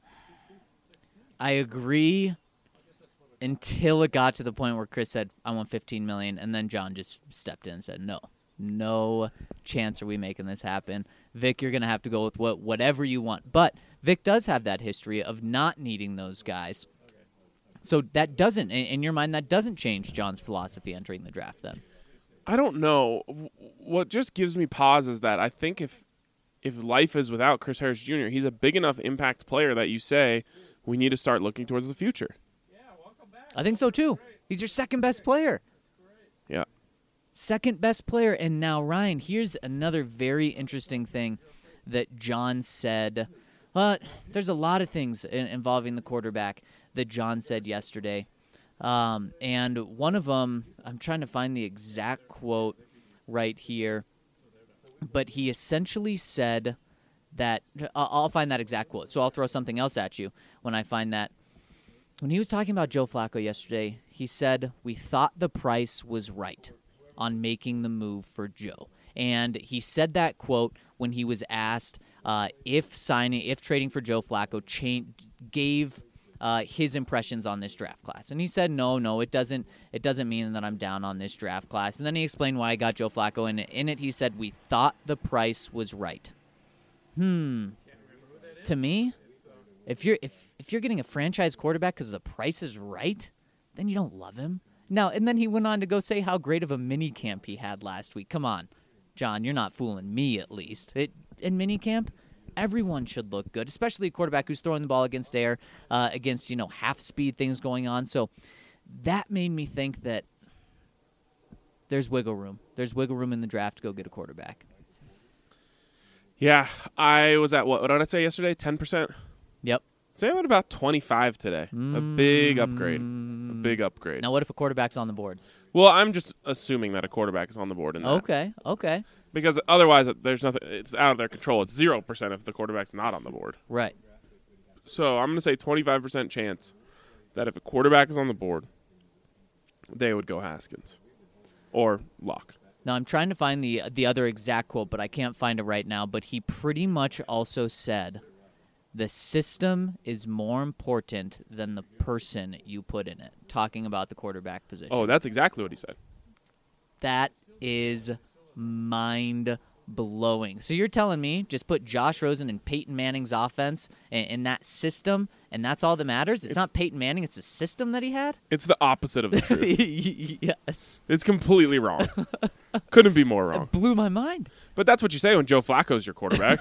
I agree until it got to the point where Chris said, I want fifteen million dollars, and then John just stepped in and said, no, no chance are we making this happen. Vic, you're going to have to go with what whatever you want. But Vic does have that history of not needing those guys. So that doesn't, in your mind, that doesn't change John's philosophy entering the draft then. I don't know. What just gives me pause is that I think if if life is without Chris Harris Junior, he's a big enough impact player that you say we need to start looking towards the future. I think so, too. He's your second best player. Yeah. Second best player. And now, Ryan, here's another very interesting thing that John said. Well, there's a lot of things in, involving the quarterback that John said yesterday. Um, and one of them, I'm trying to find the exact quote right here, but he essentially said that, I'll find that exact quote, so I'll throw something else at you when I find that. When he was talking about Joe Flacco yesterday, he said, we thought the price was right on making the move for Joe. And he said that quote when he was asked uh, if signing, if trading for Joe Flacco cha- gave uh, his impressions on this draft class. And he said, no, no, it doesn't It doesn't mean that I'm down on this draft class. And then he explained why I got Joe Flacco. And in it, he said, we thought the price was right. Hmm. To me, If you're if if you're getting a franchise quarterback because the price is right, then you don't love him. Now, and then he went on to go say how great of a mini camp he had last week. Come on, John, you're not fooling me at least. It, in mini camp, everyone should look good, especially a quarterback who's throwing the ball against air, uh, against you know half speed things going on. So that made me think that there's wiggle room. There's wiggle room in the draft to go get a quarterback. Yeah, I was at what? What did I say yesterday? ten percent. Yep. Say I'm at about twenty-five today. Mm. A big upgrade. A big upgrade. Now, what if a quarterback's on the board? Well, I'm just assuming that a quarterback is on the board in that. Okay, okay. Because otherwise, there's nothing. It's out of their control. It's zero percent if the quarterback's not on the board. Right. So I'm going to say twenty-five percent chance that if a quarterback is on the board, they would go Haskins or Locke. Now, I'm trying to find the the other exact quote, but I can't find it right now. But he pretty much also said, the system is more important than the person you put in it, talking about the quarterback position. Oh, that's exactly what he said. That is mind-blowing. So you're telling me just put Josh Rosen and Peyton Manning's offense in, in that system, and that's all that matters? It's, it's not Peyton Manning, it's the system that he had? It's the opposite of the truth. Yes. It's completely wrong. Couldn't be more wrong. It blew my mind. But that's what you say when Joe Flacco's your quarterback.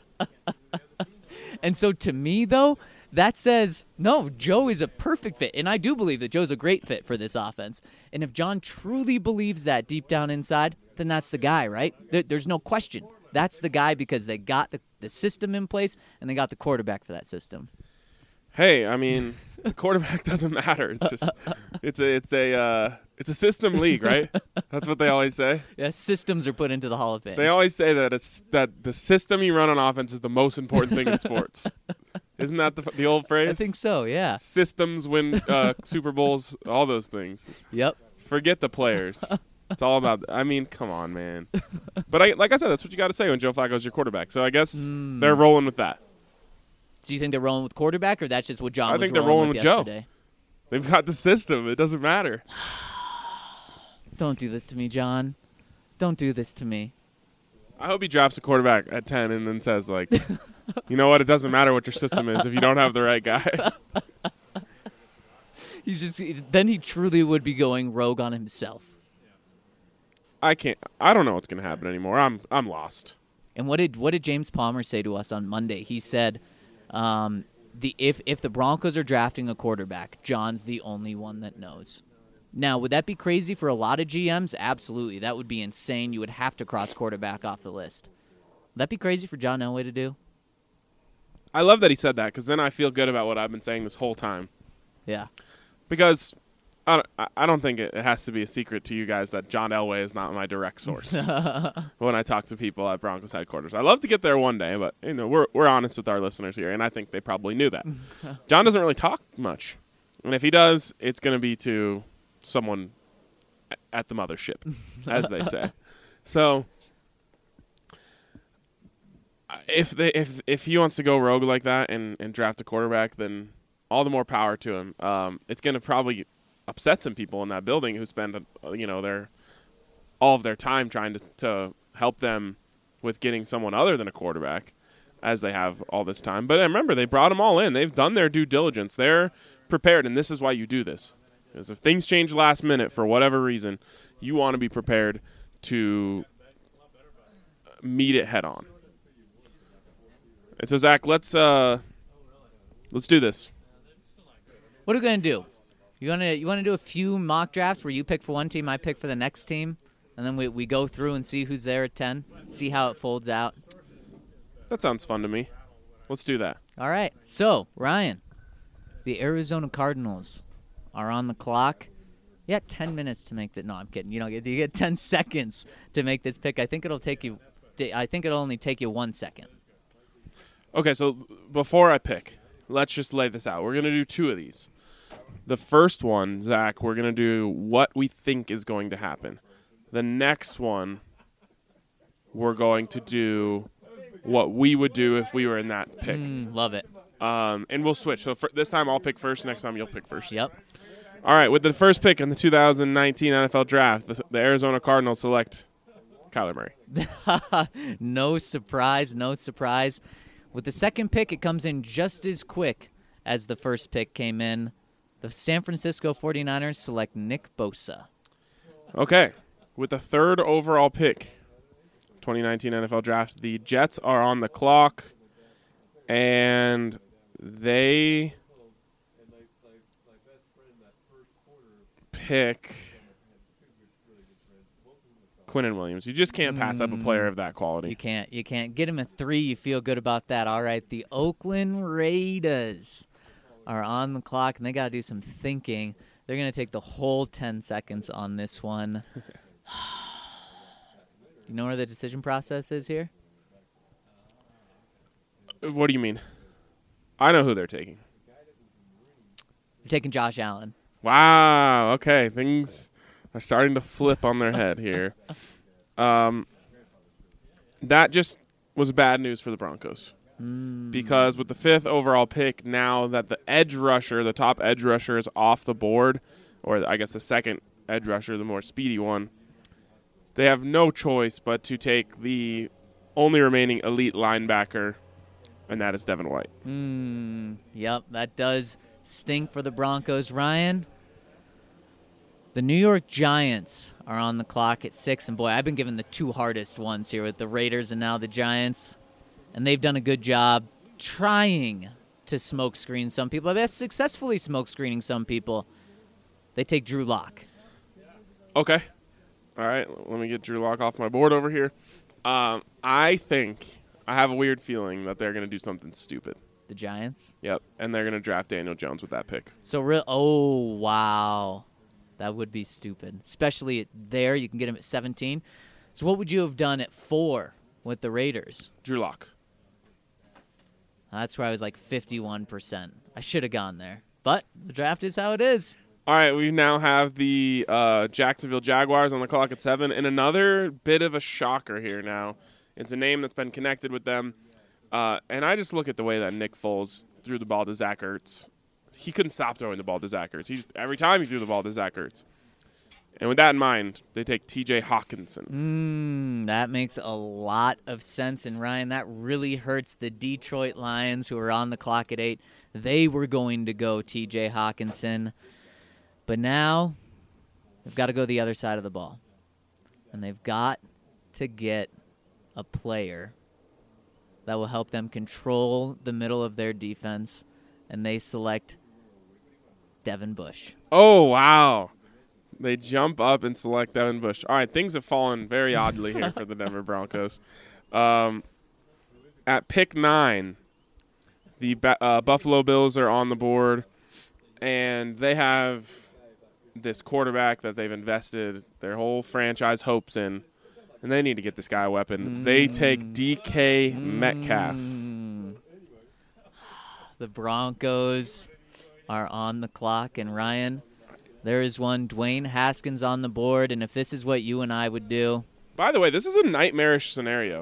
And so to me, though, that says, no, Joe is a perfect fit. And I do believe that Joe's a great fit for this offense. And if John truly believes that deep down inside, then that's the guy, right? There, there's no question. That's the guy because they got the, the system in place and they got the quarterback for that system. Hey, I mean, the quarterback doesn't matter. It's just it's a it's a uh, it's a system league, right? That's what they always say. Yeah, systems are put into the Hall of Fame. They always say that it's that the system you run on offense is the most important thing in sports. Isn't that the the old phrase? I think so. Yeah. Systems win uh, Super Bowls, all those things. Yep. Forget the players. It's all about. I mean, come on, man. But I, like I said, that's what you got to say when Joe Flacco's your quarterback. So I guess mm. they're rolling with that. Do you think they're rolling with quarterback, or that's just what John I was think they're rolling rolling with with Joe. yesterday? They've got the system. It doesn't matter. Don't do this to me, John. Don't do this to me. I hope he drafts a quarterback at ten and then says, like, you know what? It doesn't matter what your system is if you don't have the right guy. He just then he truly would be going rogue on himself. I can't. I don't know what's going to happen anymore. I'm I'm lost. And what did what did James Palmer say to us on Monday? He said, um, the if if the Broncos are drafting a quarterback, John's the only one that knows. Now, would that be crazy for a lot of G Ms? Absolutely. That would be insane. You would have to cross quarterback off the list. Would that be crazy for John Elway to do? I love that he said that because then I feel good about what I've been saying this whole time. Yeah. Because I don't, I don't think it has to be a secret to you guys that John Elway is not my direct source when I talk to people at Broncos headquarters. I love to get there one day, but you know we're we're honest with our listeners here, and I think they probably knew that. John doesn't really talk much, and if he does, it's going to be to someone at the mothership, as they say. So if they if if he wants to go rogue like that and, and draft a quarterback, then all the more power to him. Um, it's going to probably upset some people in that building who spend, uh, you know, their all of their time trying to, to help them with getting someone other than a quarterback, as they have all this time. But remember, they brought them all in. They've done their due diligence. They're prepared, and this is why you do this. Because if things change last minute for whatever reason, you want to be prepared to meet it head on. And so, Zach, let's uh, let's do this. What are we gonna do? You wanna you wanna do a few mock drafts where you pick for one team, I pick for the next team, and then we we go through and see who's there at ten, see how it folds out. That sounds fun to me. Let's do that. All right. So Ryan, the Arizona Cardinals are on the clock. You got ten minutes to make that. No, I'm kidding. You don't get. You get ten seconds to make this pick. I think it'll take you. I think it'll only take you one second. Okay, so before I pick, let's just lay this out. We're gonna do two of these. The first one, Zach, we're going to do what we think is going to happen. The next one, we're going to do what we would do if we were in that pick. Mm, love it. Um, and we'll switch. So for, this time I'll pick first. Next time you'll pick first. Yep. All right, with the first pick in the two thousand nineteen N F L Draft, the, the Arizona Cardinals select Kyler Murray. No surprise, no surprise. With the second pick, it comes in just as quick as the first pick came in. The San Francisco forty-niners select Nick Bosa. Okay. With the third overall pick, twenty nineteen N F L Draft, the Jets are on the clock, and they pick Quinnen Williams. You just can't pass up a player of that quality. You can't. You can't. Get him a three. You feel good about that. All right. The Oakland Raiders are on the clock, and they got to do some thinking. They're going to take the whole ten seconds on this one. You know where the decision process is here? What do you mean? I know who they're taking. They're taking Josh Allen. Wow. Okay. Things are starting to flip on their head here. Um, that just was bad news for the Broncos. Mm. Because with the fifth overall pick, now that the edge rusher, the top edge rusher, is off the board, or I guess the second edge rusher, the more speedy one, they have no choice but to take the only remaining elite linebacker, and that is Devin White. Mm, yep, that does stink for the Broncos. Ryan, the New York Giants are on the clock at six, and boy, I've been given the two hardest ones here with the Raiders and now the Giants. And they've done a good job trying to smoke screen some people. They're successfully smoke screening some people. They take Drew Lock. Okay. All right. Let me get Drew Lock off my board over here. Um, I think, I have a weird feeling that they're going to do something stupid. The Giants? Yep. And they're going to draft Daniel Jones with that pick. So, real. Oh, wow. That would be stupid. Especially at there. You can get him at seventeen. So, what would you have done at four with the Raiders? Drew Lock. That's where I was like fifty-one percent. I should have gone there. But the draft is how it is. All right, we now have the uh, Jacksonville Jaguars on the clock at seven. And another bit of a shocker here now. It's a name that's been connected with them. Uh, and I just look at the way that Nick Foles threw the ball to Zach Ertz. He couldn't stop throwing the ball to Zach Ertz. He just, every time he threw the ball to Zach Ertz. And with that in mind, they take T J Hawkinson. Mm, that makes a lot of sense. And, Ryan, that really hurts the Detroit Lions, who are on the clock at eight. They were going to go T J Hawkinson. But now they've got to go the other side of the ball. And they've got to get a player that will help them control the middle of their defense. And they select Devin Bush. Oh, wow. They jump up and select Devin Bush. All right, things have fallen very oddly here for the Denver Broncos. Um, at pick nine, the uh, Buffalo Bills are on the board, and they have this quarterback that they've invested their whole franchise hopes in, and they need to get this guy a weapon. Mm. They take D K mm. Metcalf. The Broncos are on the clock, and Ryan, there is one Dwayne Haskins on the board, and if this is what you and I would do. By the way, this is a nightmarish scenario.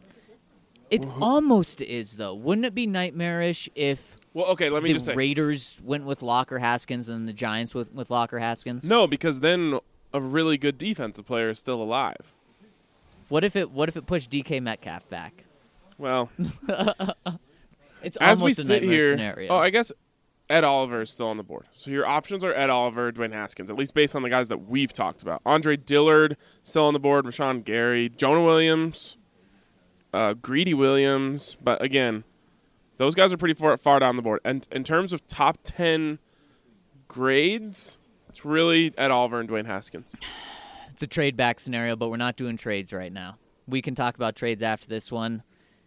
It almost is, though. Wouldn't it be nightmarish if well, okay, let me the just say. Raiders went with Locker Haskins and the Giants with, with Locker Haskins? No, because then a really good defensive player is still alive. What if it What if it pushed D K Metcalf back? Well, it's as almost we a sit nightmare here, scenario. Oh, I guess Ed Oliver is still on the board. So your options are Ed Oliver, Dwayne Haskins, at least based on the guys that we've talked about. Andre Dillard still on the board, Rashawn Gary, Jonah Williams, uh, Greedy Williams. But again, those guys are pretty far, far down the board. And in terms of top ten grades, it's really Ed Oliver and Dwayne Haskins. It's a trade back scenario, but we're not doing trades right now. We can talk about trades after this one.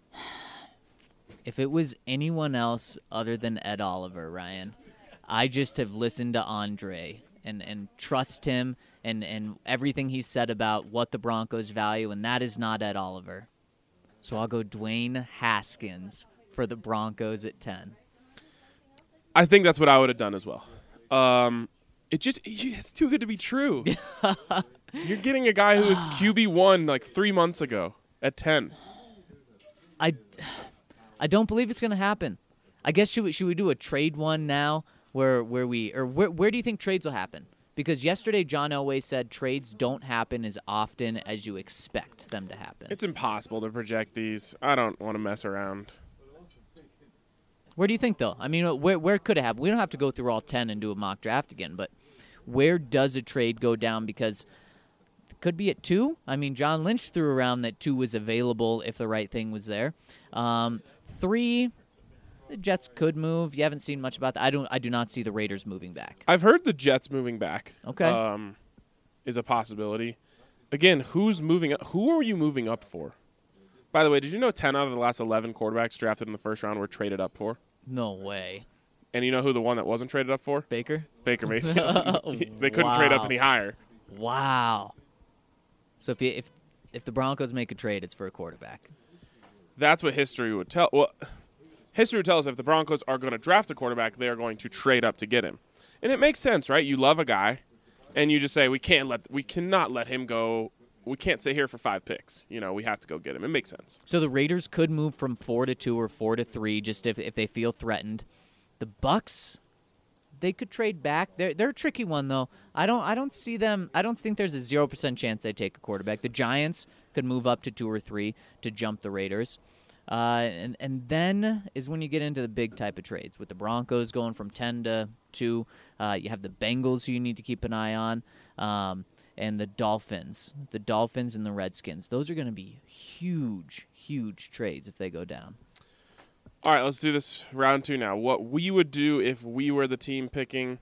If it was anyone else other than Ed Oliver, Ryan, I just have listened to Andre and, and trust him and, and everything he said about what the Broncos value, and that is not Ed Oliver. So I'll go Dwayne Haskins for the Broncos at ten. I think that's what I would have done as well. Um, it just it's too good to be true. You're getting a guy who was Q B one like three months ago at ten. I... I don't believe it's going to happen. I guess should we, should we do a trade one now where where we or where where do you think trades will happen? Because yesterday John Elway said trades don't happen as often as you expect them to happen. It's impossible to project these. I don't want to mess around. Where do you think though? I mean, where where could it happen? We don't have to go through all ten and do a mock draft again, but where does a trade go down? Because it could be at two. I mean, John Lynch threw around that two was available if the right thing was there. Um, Three, the Jets could move. You haven't seen much about that. I don't. I do not see the Raiders moving back. I've heard the Jets moving back. Okay, um, is a possibility. Again, who's moving up? Who are you moving up for? By the way, did you know ten out of the last eleven quarterbacks drafted in the first round were traded up for? No way. And you know who the one that wasn't traded up for? Baker. Baker Mayfield. They couldn't wow. trade up any higher. Wow. So if you, if if the Broncos make a trade, it's for a quarterback. That's what history would tell. Well, history would tell us if the Broncos are going to draft a quarterback, they are going to trade up to get him, and it makes sense, right? You love a guy, and you just say we can't let, we cannot let him go. We can't sit here for five picks. You know, we have to go get him. It makes sense. So the Raiders could move from four to two or four to three, just if if they feel threatened. The Bucks, they could trade back. They're they're a tricky one though. I don't I don't see them. I don't think there's a zero percent chance they take a quarterback. The Giants could move up to two or three to jump the Raiders. Uh, and, and then is when you get into the big type of trades. With the Broncos going from ten to two, uh, you have the Bengals who you need to keep an eye on, um, and the Dolphins. The Dolphins and the Redskins. Those are going to be huge, huge trades if they go down. All right, let's do this round two now. What we would do if we were the team picking.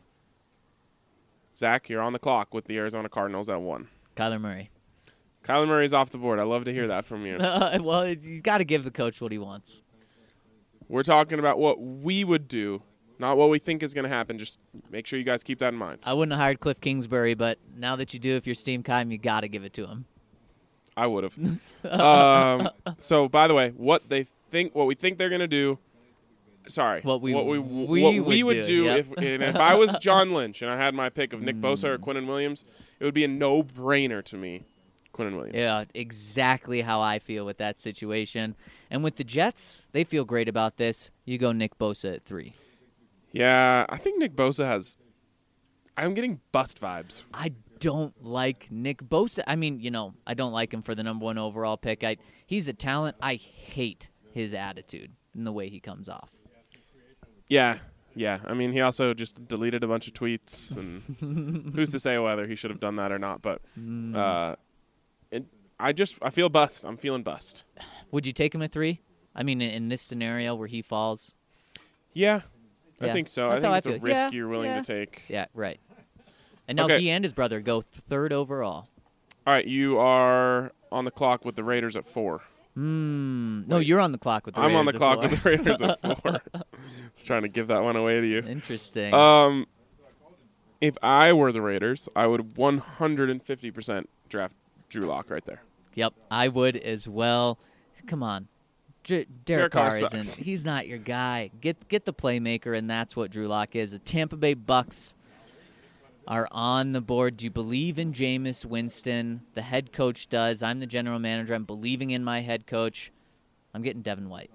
Zach, you're on the clock with the Arizona Cardinals at one. Kyler Murray. Kyler Murray's off the board. I love to hear that from you. Uh, well, you got to give the coach what he wants. We're talking about what we would do, not what we think is going to happen. Just make sure you guys keep that in mind. I wouldn't have hired Cliff Kingsbury, but now that you do, if you're Steve Keim, you got to give it to him. I would have. um, so, by the way, what they think, what we think they're going to do. Sorry, what we what we, we what would we would do, do yep. if and if I was John Lynch and I had my pick of Nick Bosa or Quinnen Williams, it would be a no-brainer to me. Quinnen Williams. Yeah, exactly how I feel with that situation. And with the Jets, they feel great about this. You go Nick Bosa at three. Yeah, I think Nick Bosa has. I'm getting bust vibes. I don't like Nick Bosa. I mean, you know, I don't like him for the number one overall pick. I, he's a talent. I hate his attitude and the way he comes off. Yeah, yeah. I mean, he also just deleted a bunch of tweets, and who's to say whether he should have done that or not? But uh, it, I just I feel bust. I'm feeling bust. Would you take him at three? I mean, in, in this scenario where he falls. Yeah, Yeah, I think so. that's I how think I it's a feel. risk Yeah, you're willing yeah. to take. Yeah, right. And now Okay. he and his brother go third overall. All right, you are on the clock with the Raiders at four. Hmm. No, you're on the clock with the I'm Raiders on the at clock four. with the Raiders at four. Just trying to give that one away to you. Interesting. Um, if I were the Raiders, I would one hundred fifty percent draft Drew Lock right there. Yep, I would as well. Come on. J- Derek, Derek Carr Carr isn't. sucks. He's not your guy. Get get the playmaker, and that's what Drew Lock is. The Tampa Bay Bucks are on the board. Do you believe in Jameis Winston? The head coach does. I'm the general manager. I'm believing in my head coach. I'm getting Devin White.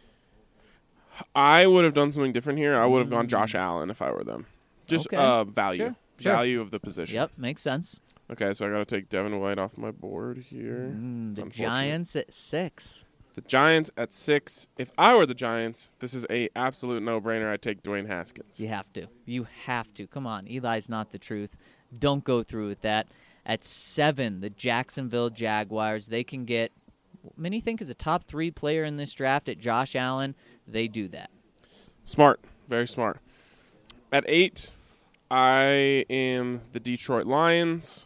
I would have done something different here. I would have gone Josh Allen if I were them. Just Okay. uh, value. Sure, sure. Value of the position. Yep, makes sense. Okay, so I got to take Devin White off my board here. Mm, It's the unfortunate. Giants at six. The Giants at six. If I were the Giants, this is a absolute no-brainer. I'd take Dwayne Haskins. You have to. You have to. Come on. Eli's not the truth. Don't go through with that. At seven, the Jacksonville Jaguars. They can get, many think is a top three player in this draft at Josh Allen. They do that. Smart. Very smart. At eight, I am the Detroit Lions.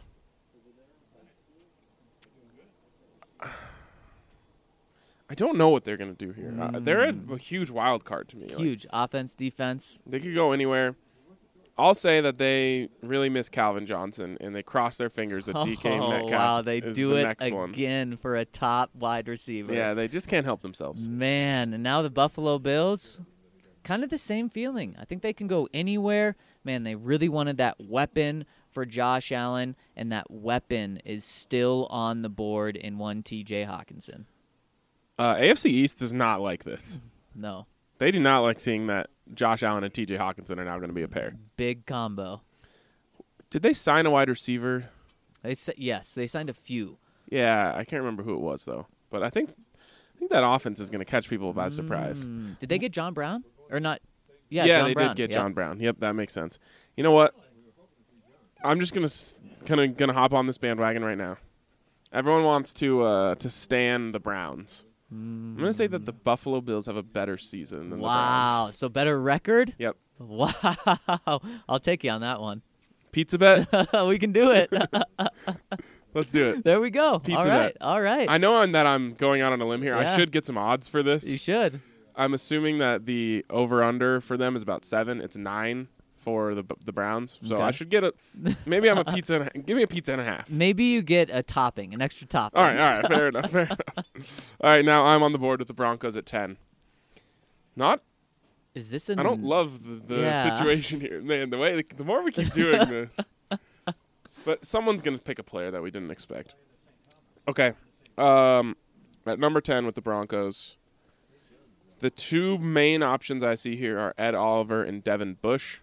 I don't know what they're going to do here. Uh, they're a, a huge wild card to me. Like, Huge. Offense, defense. they could go anywhere. I'll say that they really miss Calvin Johnson, and they cross their fingers that D K oh, Metcalf wow. They is do the it next one. again for a top wide receiver. Yeah, they just can't help themselves. Man, and now the Buffalo Bills, kind of the same feeling. I think they can go anywhere. Man, they really wanted that weapon for Josh Allen, and that weapon is still on the board in one T J Hawkinson. Uh, A F C East does not like this. No. They do not like seeing that Josh Allen and T J Hawkinson are now going to be a pair. Big combo. Did they sign a wide receiver? They sa- Yes, they signed a few. Yeah, I can't remember who it was, though. But I think I think that offense is going to catch people by surprise. Mm, Did they get John Brown? Or not? Yeah, Yeah, John they Brown. did get Yep. John Brown. Yep, that makes sense. You know what? I'm just gonna kind of gonna hop on this bandwagon right now. Everyone wants to uh, to stand the Browns. I'm gonna say that the Buffalo Bills have a better season than Wow, the Browns. so better record? Yep. Wow. I'll take you on that one. Pizza bet. We can do it. Let's do it. There we go. Pizza all right. bet. All right. I know I'm, that I'm going out on a limb here. I Yeah. should get some odds for this. You should. I'm assuming that the over/under for them is about seven. It's nine for the the Browns. So Okay. I should get a. Maybe I'm a pizza. And a, give me a pizza and a half. Maybe you get a topping, an extra topping. All right, all right, fair enough, fair enough. All right, now I'm on the board with the Broncos at ten. Not, Is this an I don't love the, the Yeah. situation here, man. The way the more we keep doing this, but someone's gonna pick a player that we didn't expect. Okay, um, at number ten with the Broncos, the two main options I see here are Ed Oliver and Devin Bush.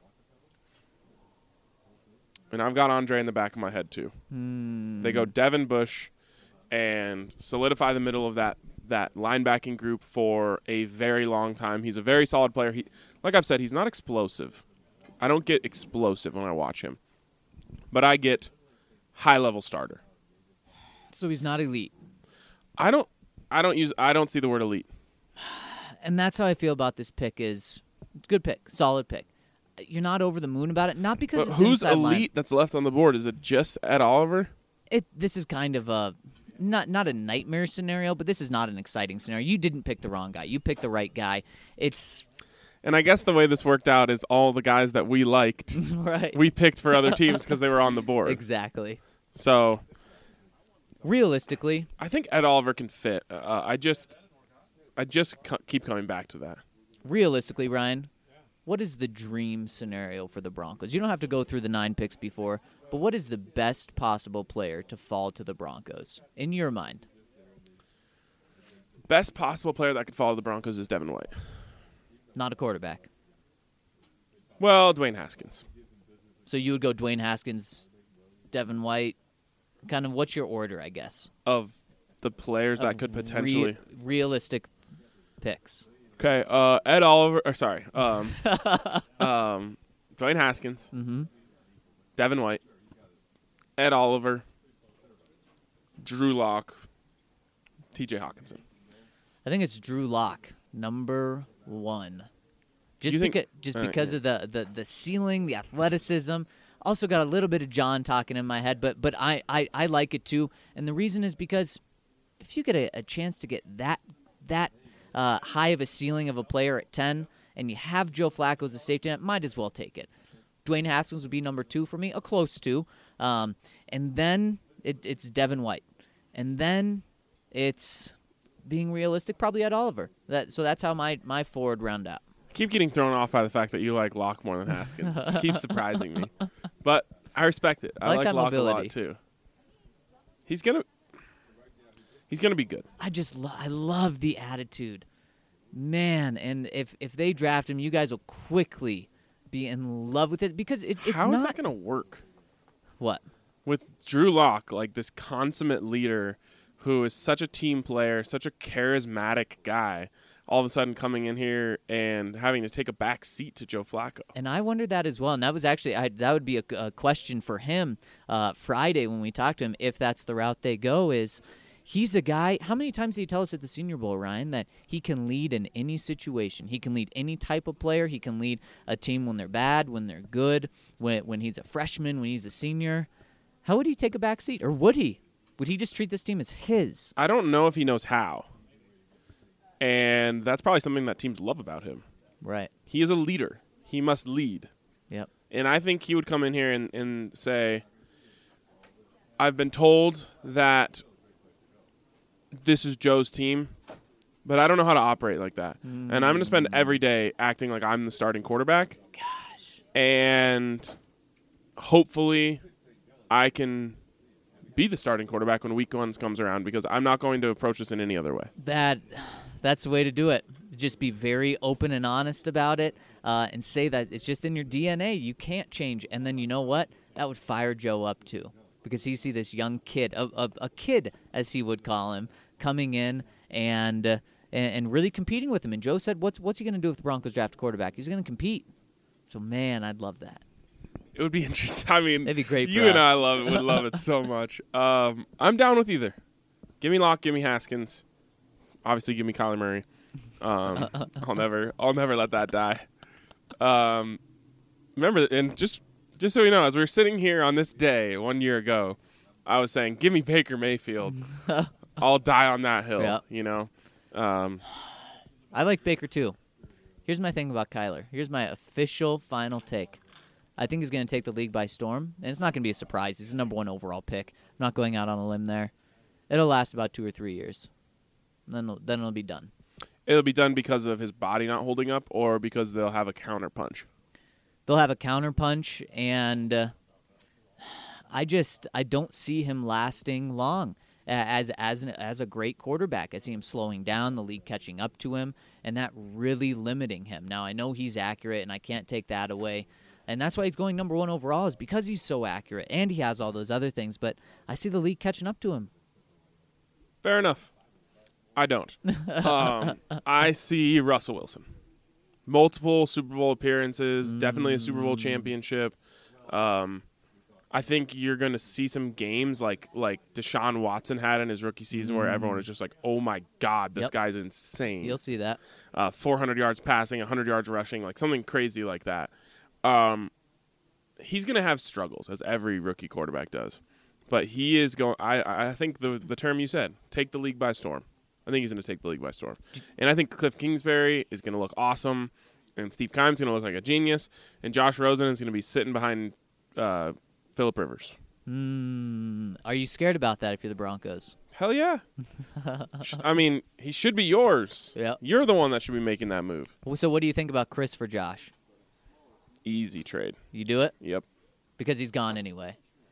And I've got Andre in the back of my head too. Hmm. They go Devin Bush and solidify the middle of that that linebacking group for a very long time. He's a very solid player. He, like I've said, he's not explosive. I don't get explosive when I watch him, but I get high level starter. So he's not elite. I don't. I don't use. I don't see the word elite. And that's how I feel about this pick is good pick, solid pick. You're not over the moon about it, not because But it's who's inside line. elite that's left on the board? Is it just Ed Oliver? It, this is kind of a not not a nightmare scenario, but this is not an exciting scenario. You didn't pick the wrong guy. You picked the right guy. It's And I guess the way this worked out is all the guys that we liked, right. we picked for other teams because they were on the board. Exactly. So Realistically, I think Ed Oliver can fit. Uh, I just, I just co- keep coming back to that. realistically, Ryan, what is the dream scenario for the Broncos? You don't have to go through the nine picks before. but what is the best possible player to fall to the Broncos in your mind? Best possible player that could follow the Broncos is Devin White. Not a quarterback. Well, Dwayne Haskins. So you would go Dwayne Haskins, Devin White. Kind of what's your order, I guess? Of the players that Of could potentially. Re- realistic picks. Okay, uh, Ed Oliver. Or sorry. Um, um, Dwayne Haskins. Mm-hmm. Devin White. Ed Oliver. Drew Lock. T J Hawkinson. I think it's Drew Lock, number one. Just You think- because, just all right, because yeah. of the, the, the ceiling, the athleticism. Also got a little bit of John talking in my head, but but I, I, I like it too. And the reason is because if you get a, a chance to get that that uh, high of a ceiling of a player at ten, and you have Joe Flacco as a safety net, might as well take it. Dwayne Haskins would be number two for me, a close two. Um, and then it, it's Devin White. And then it's, being realistic, probably Ed Oliver. That So that's how my, my forward round out. Keep getting thrown off by the fact that you like Locke more than Haskins. Just keeps surprising me. But I respect it. I, I like like, that Locke a lot mobility. too. He's gonna He's gonna be good. I just lo- I love the attitude. Man, and if, if they draft him, you guys will quickly be in love with it because it, it's How not... is that gonna work? What? With Drew Lock, like this consummate leader who is such a team player, such a charismatic guy, all of a sudden coming in here and having to take a back seat to Joe Flacco. And I wondered that as well. And that was actually I, that would be a, a question for him uh, Friday when we talk to him, if that's the route they go. Is he's a guy. How many times did he tell us at the Senior Bowl, Ryan, that he can lead in any situation? He can lead any type of player. He can lead a team when they're bad, when they're good, when when he's a freshman, when he's a senior. How would he take a back seat, or would he? Would he just treat this team as his? I don't know if he knows how. And that's probably something that teams love about him. Right. He is a leader. He must lead. Yep. And I think he would come in here and, and say, I've been told that this is Joe's team, but I don't know how to operate like that. Mm. And I'm going to spend every day acting like I'm the starting quarterback. Gosh. And hopefully I can be the starting quarterback when week one comes around, because I'm not going to approach this in any other way. That, that's the way to do it. Just be very open and honest about it, uh, and say that it's just in your D N A. You can't change. And then you know what? That would fire Joe up too, because he see this young kid, a, a, a kid as he would call him, coming in and uh, and, and really competing with him. And Joe said, "What's what's he going to do with the Broncos draft quarterback? He's going to compete." So man, I'd love that. It would be interesting. I mean, It'd be great. You for and us. I love it. Would love it so much. Um, I'm down with either. Give me Locke. Give me Haskins. Obviously, give me Kyler Murray. Um, I'll never, I'll never let that die. Um, remember, and just, just so you know, as we were sitting here on this day one year ago, I was saying, "Give me Baker Mayfield. I'll die on that hill." Yep. You know. Um, I like Baker too. Here's my thing about Kyler. Here's my official final take. I think he's going to take the league by storm, and it's not going to be a surprise. He's the number one overall pick. I'm not going out on a limb there. It'll last about two or three years. Then, it'll, then it'll be done. It'll be done because of his body not holding up, or because they'll have a counter punch. They'll have a counter punch, and uh, I just I don't see him lasting long uh, as as an, as a great quarterback. I see him slowing down, the league catching up to him, and that really limiting him. Now I know he's accurate, and I can't take that away. And that's why he's going number one overall, is because he's so accurate and he has all those other things. But I see the league catching up to him. Fair enough. I don't. um, I see Russell Wilson. Multiple Super Bowl appearances, mm. definitely a Super Bowl championship. Um, I think you're going to see some games like like Deshaun Watson had in his rookie season, mm. where everyone is just like, oh, my God, this yep. guy's insane. You'll see that. Uh, four hundred yards passing, one hundred yards rushing, like something crazy like that. Um, he's going to have struggles, as every rookie quarterback does. But he is going. I I think the the term you said, take the league by storm. I think he's going to take the league by storm, and I think Cliff Kingsbury is going to look awesome, and Steve Keim's going to look like a genius, and Josh Rosen is going to be sitting behind uh, Phillip Rivers. Mm, are you scared about that if you're the Broncos? Hell yeah! I mean, he should be yours. Yep. You're the one that should be making that move. So what do you think about Chris for Josh? Easy trade. You do it? Yep. Because he's gone anyway.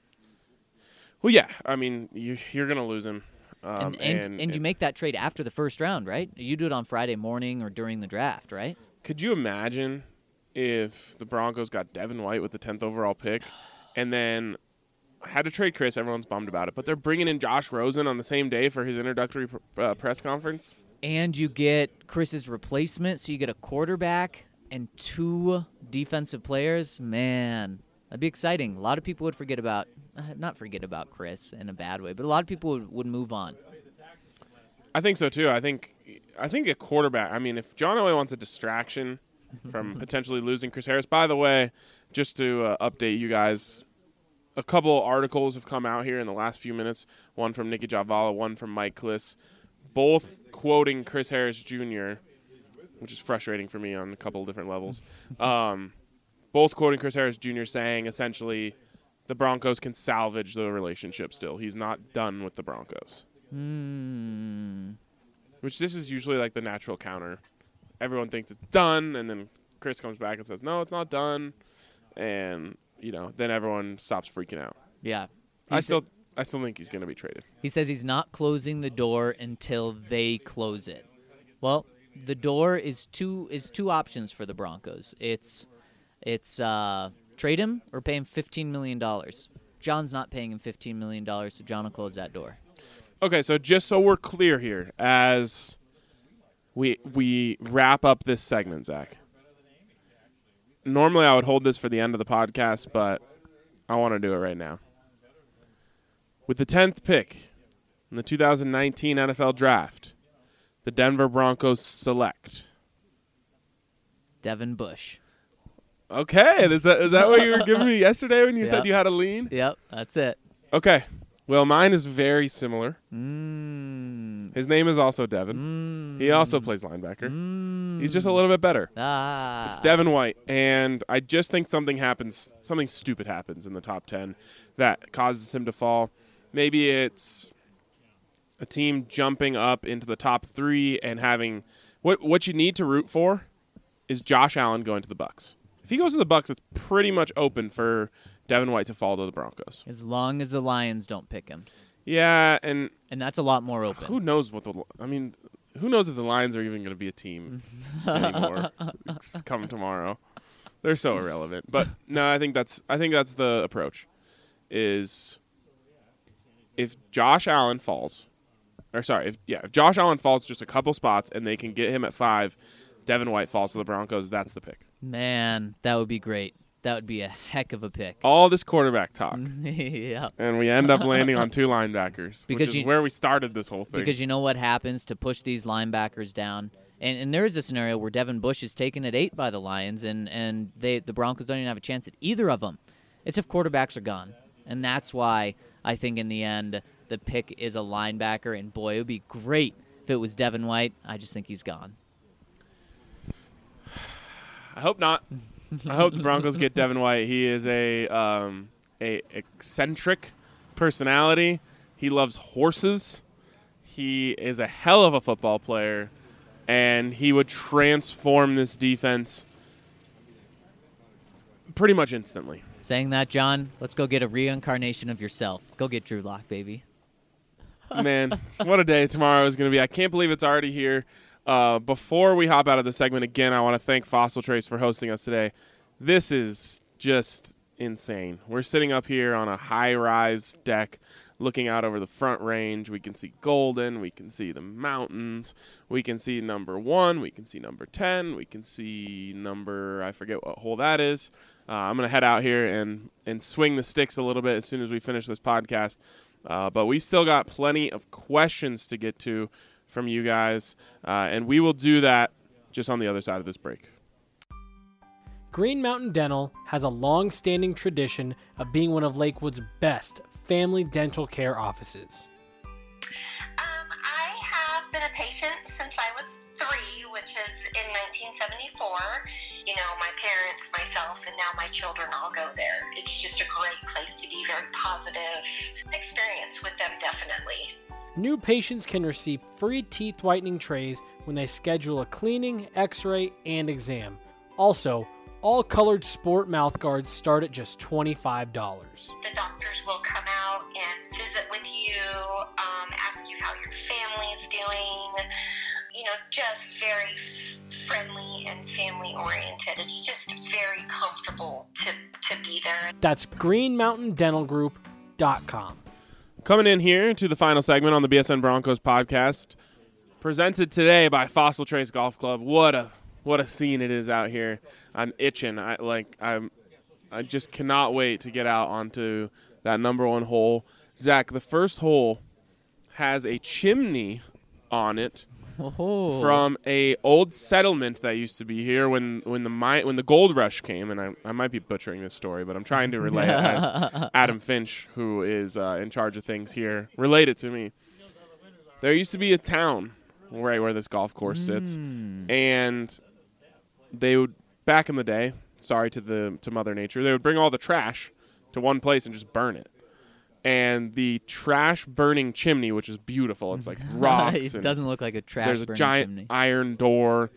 Well, yeah. I mean, you, you're going to lose him. Um, and, and, and, and you make that trade after the first round, right? You do it on Friday morning or during the draft, right? Could you imagine if the Broncos got Devin White with the tenth overall pick and then had to trade Chris? Everyone's bummed about it, but they're bringing in Josh Rosen on the same day for his introductory uh, press conference. And you get Chris's replacement, so you get a quarterback and two defensive players. Man, that'd be exciting. A lot of people would forget about, uh, not forget about Chris in a bad way, but a lot of people would, would move on. I think so too. I think I think a quarterback. I mean, if John Elway wants a distraction from potentially losing Chris Harris. By the way, just to uh, update you guys, a couple articles have come out here in the last few minutes. One from Nikki Javala, one from Mike Kliss, both quoting Chris Harris Junior, which is frustrating for me on a couple of different levels. Um, both quoting Chris Harris Junior saying essentially the Broncos can salvage the relationship still. He's not done with the Broncos. Hmm. Which this is usually like the natural counter. Everyone thinks it's done, and then Chris comes back and says, no, it's not done. And, you know, then everyone stops freaking out. Yeah. I He's- still I still think he's going to be traded. He says he's not closing the door until they close it. Well, the door is two is two options for the Broncos. It's it's uh, trade him or pay him fifteen million dollars. John's not paying him fifteen million dollars, so John will close that door. Okay, so just so we're clear here, as we we wrap up this segment, Zach. Normally I would hold this for the end of the podcast, but I want to do it right now. With the tenth pick in the two thousand nineteen N F L Draft, the Denver Broncos select. Devin Bush. Okay, is that is that what you were giving me yesterday when you Yep. said you had a lean? Yep, that's it. Okay, well, mine is very similar. Mm. His name is also Devin. Mm. He also plays linebacker. Mm. He's just a little bit better. Ah. It's Devin White, and I just think something happens, something stupid happens in the top ten that causes him to fall. Maybe it's a team jumping up into the top three and having what what you need to root for is Josh Allen going to the Bucs. If he goes to the Bucs, it's pretty much open for Devin White to fall to the Broncos. As long as the Lions don't pick him. Yeah, and And that's a lot more open. who knows what the I mean, who knows if the Lions are even going to be a team anymore come tomorrow. They're so irrelevant. But no, I think that's I think that's the approach. Is if Josh Allen falls, or sorry, if yeah, if Josh Allen falls just a couple spots and they can get him at five, Devin White falls to the Broncos, that's the pick. Man, that would be great. That would be a heck of a pick. All this quarterback talk. Yeah. And we end up landing on two linebackers, Because which is you- where we started this whole thing. Because you know what happens to push these linebackers down. And and there is a scenario where Devin Bush is taken at eight by the Lions, and, and they the Broncos don't even have a chance at either of them. It's if quarterbacks are gone. And that's why I think in the end the pick is a linebacker. And, boy, it would be great if it was Devin White. I just think he's gone. I hope not. I hope the Broncos get Devin White. He is a um, a eccentric personality. He loves horses. He is a hell of a football player, and he would transform this defense pretty much instantly. Saying that, John, let's go get a reincarnation of yourself. Go get Drew Lock, baby. Man, what a day tomorrow is going to be. I can't believe it's already here. Uh, before we hop out of the segment again, I want to thank Fossil Trace for hosting us today. This is just insane. We're sitting up here on a high-rise deck looking out over the Front Range. We can see Golden. We can see the mountains. We can see number one. We can see number ten. We can see number, I forget what hole that is. Uh, I'm going to head out here and, and swing the sticks a little bit as soon as we finish this podcast. Uh, but we've still got plenty of questions to get to from you guys, uh, and we will do that just on the other side of this break. Green Mountain Dental has a long-standing tradition of being one of Lakewood's best family dental care offices. Um, I have been a patient since I was three, which is in nineteen seventy-four. You know, my parents, myself, and now my children all go there. It's just a great place to be, very positive experience with them, definitely. New patients can receive free teeth whitening trays when they schedule a cleaning, x-ray, and exam. Also, all colored sport mouth guards start at just twenty-five dollars. The doctors will come out and know, just very f- friendly and family oriented. It's just very comfortable to, to be there. That's green mountain dental group dot com. Coming in here to the final segment on the B S N Broncos podcast, presented today by Fossil Trace Golf Club. What a what a scene it is out here. I'm itching. I like I'm I just cannot wait to get out onto that number one hole. Zach, the first hole has a chimney on it Oh. from a old settlement that used to be here when, when the mine, when the gold rush came. And I, I might be butchering this story, but I'm trying to relay it as Adam Finch, who is uh, in charge of things here, relate it to me. There used to be a town right where this golf course sits, Mm. and they would, back in the day, sorry to the to Mother Nature, they would bring all the trash to one place and just burn it. And the trash burning chimney, which is beautiful, it's like rocks. It and doesn't look like a trash there's a burning giant chimney. iron door.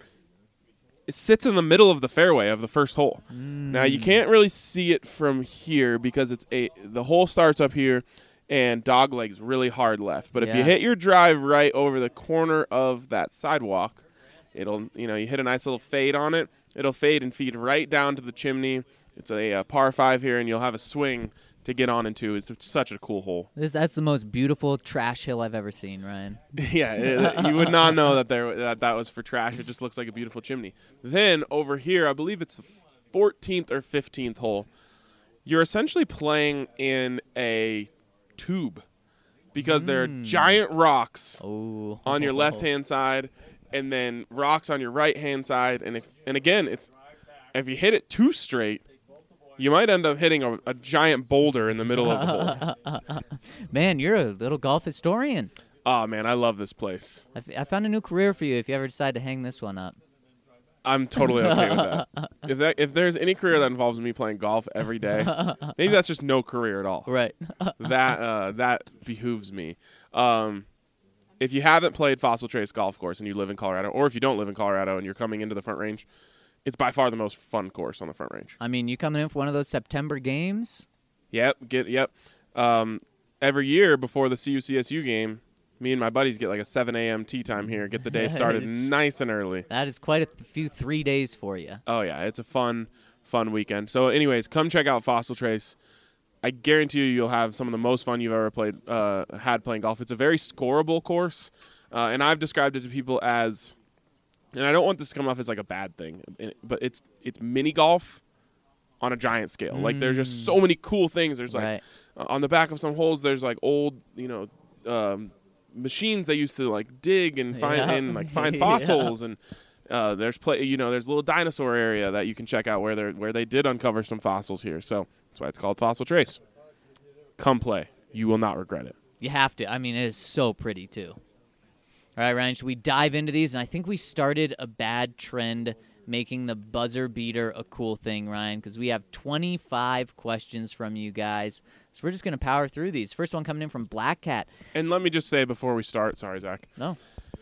It sits in the middle of the fairway of the first hole. Now you can't really see it from here because it's a the hole starts up here and dog legs really hard left. But if you Yeah. hit your drive right over the corner of that sidewalk, it'll you know you hit a nice little fade on it. It'll fade and feed right down to the chimney. It's a, a par five here, and you'll have a swing to get on into. It's such a cool hole. This, that's the most beautiful trash hill I've ever seen, Ryan. Yeah, it, you would not know that there that that was for trash. It just looks like a beautiful chimney. Then over here, I believe it's the fourteenth or fifteenth hole. You're essentially playing in a tube because there are giant rocks Oh. on your left-hand side and then rocks on your right-hand side. And if and again, it's if you hit it too straight, you might end up hitting a, a giant boulder in the middle of the hole. Man, you're a little golf historian. Oh, man, I love this place. I, f- I found a new career for you if you ever decide to hang this one up. I'm totally okay with that. If that if there's any career that involves me playing golf every day, maybe that's just no career at all. Right. That uh, that behooves me. Um, if you haven't played Fossil Trace Golf Course and you live in Colorado, or if you don't live in Colorado and you're coming into the Front Range, it's by far the most fun course on the Front Range. I mean, you coming in for one of those September games? Yep, get yep. Um, every year before the C U C S U game, me and my buddies get like a seven a.m. tee time here. Get the day started It's- nice and early. That is quite a th- few three days for you. Oh yeah, it's a fun, fun weekend. So, anyways, come check out Fossil Trace. I guarantee you, you'll have some of the most fun you've ever played, uh, had playing golf. It's a very scoreable course, uh, and I've described it to people as, and I don't want this to come off as like a bad thing, but it's it's mini golf on a giant scale. Like there's just so many cool things. There's like Right. uh, on the back of some holes, there's like old, you know. Um, machines they used to like dig and find Yeah. and like find Yeah. fossils and uh, there's play you know there's a little dinosaur area that you can check out where they where they did uncover some fossils here, so that's why it's called Fossil Trace. Come play, you will not regret it. You have to. I mean, it is so pretty, too. All right, Ryan, should we dive into these? And I think we started a bad trend making the buzzer beater a cool thing, Ryan, because we have twenty-five questions from you guys. So we're just going to power through these. First one coming in from Black Cat. And let me just say before we start, sorry Zach, No.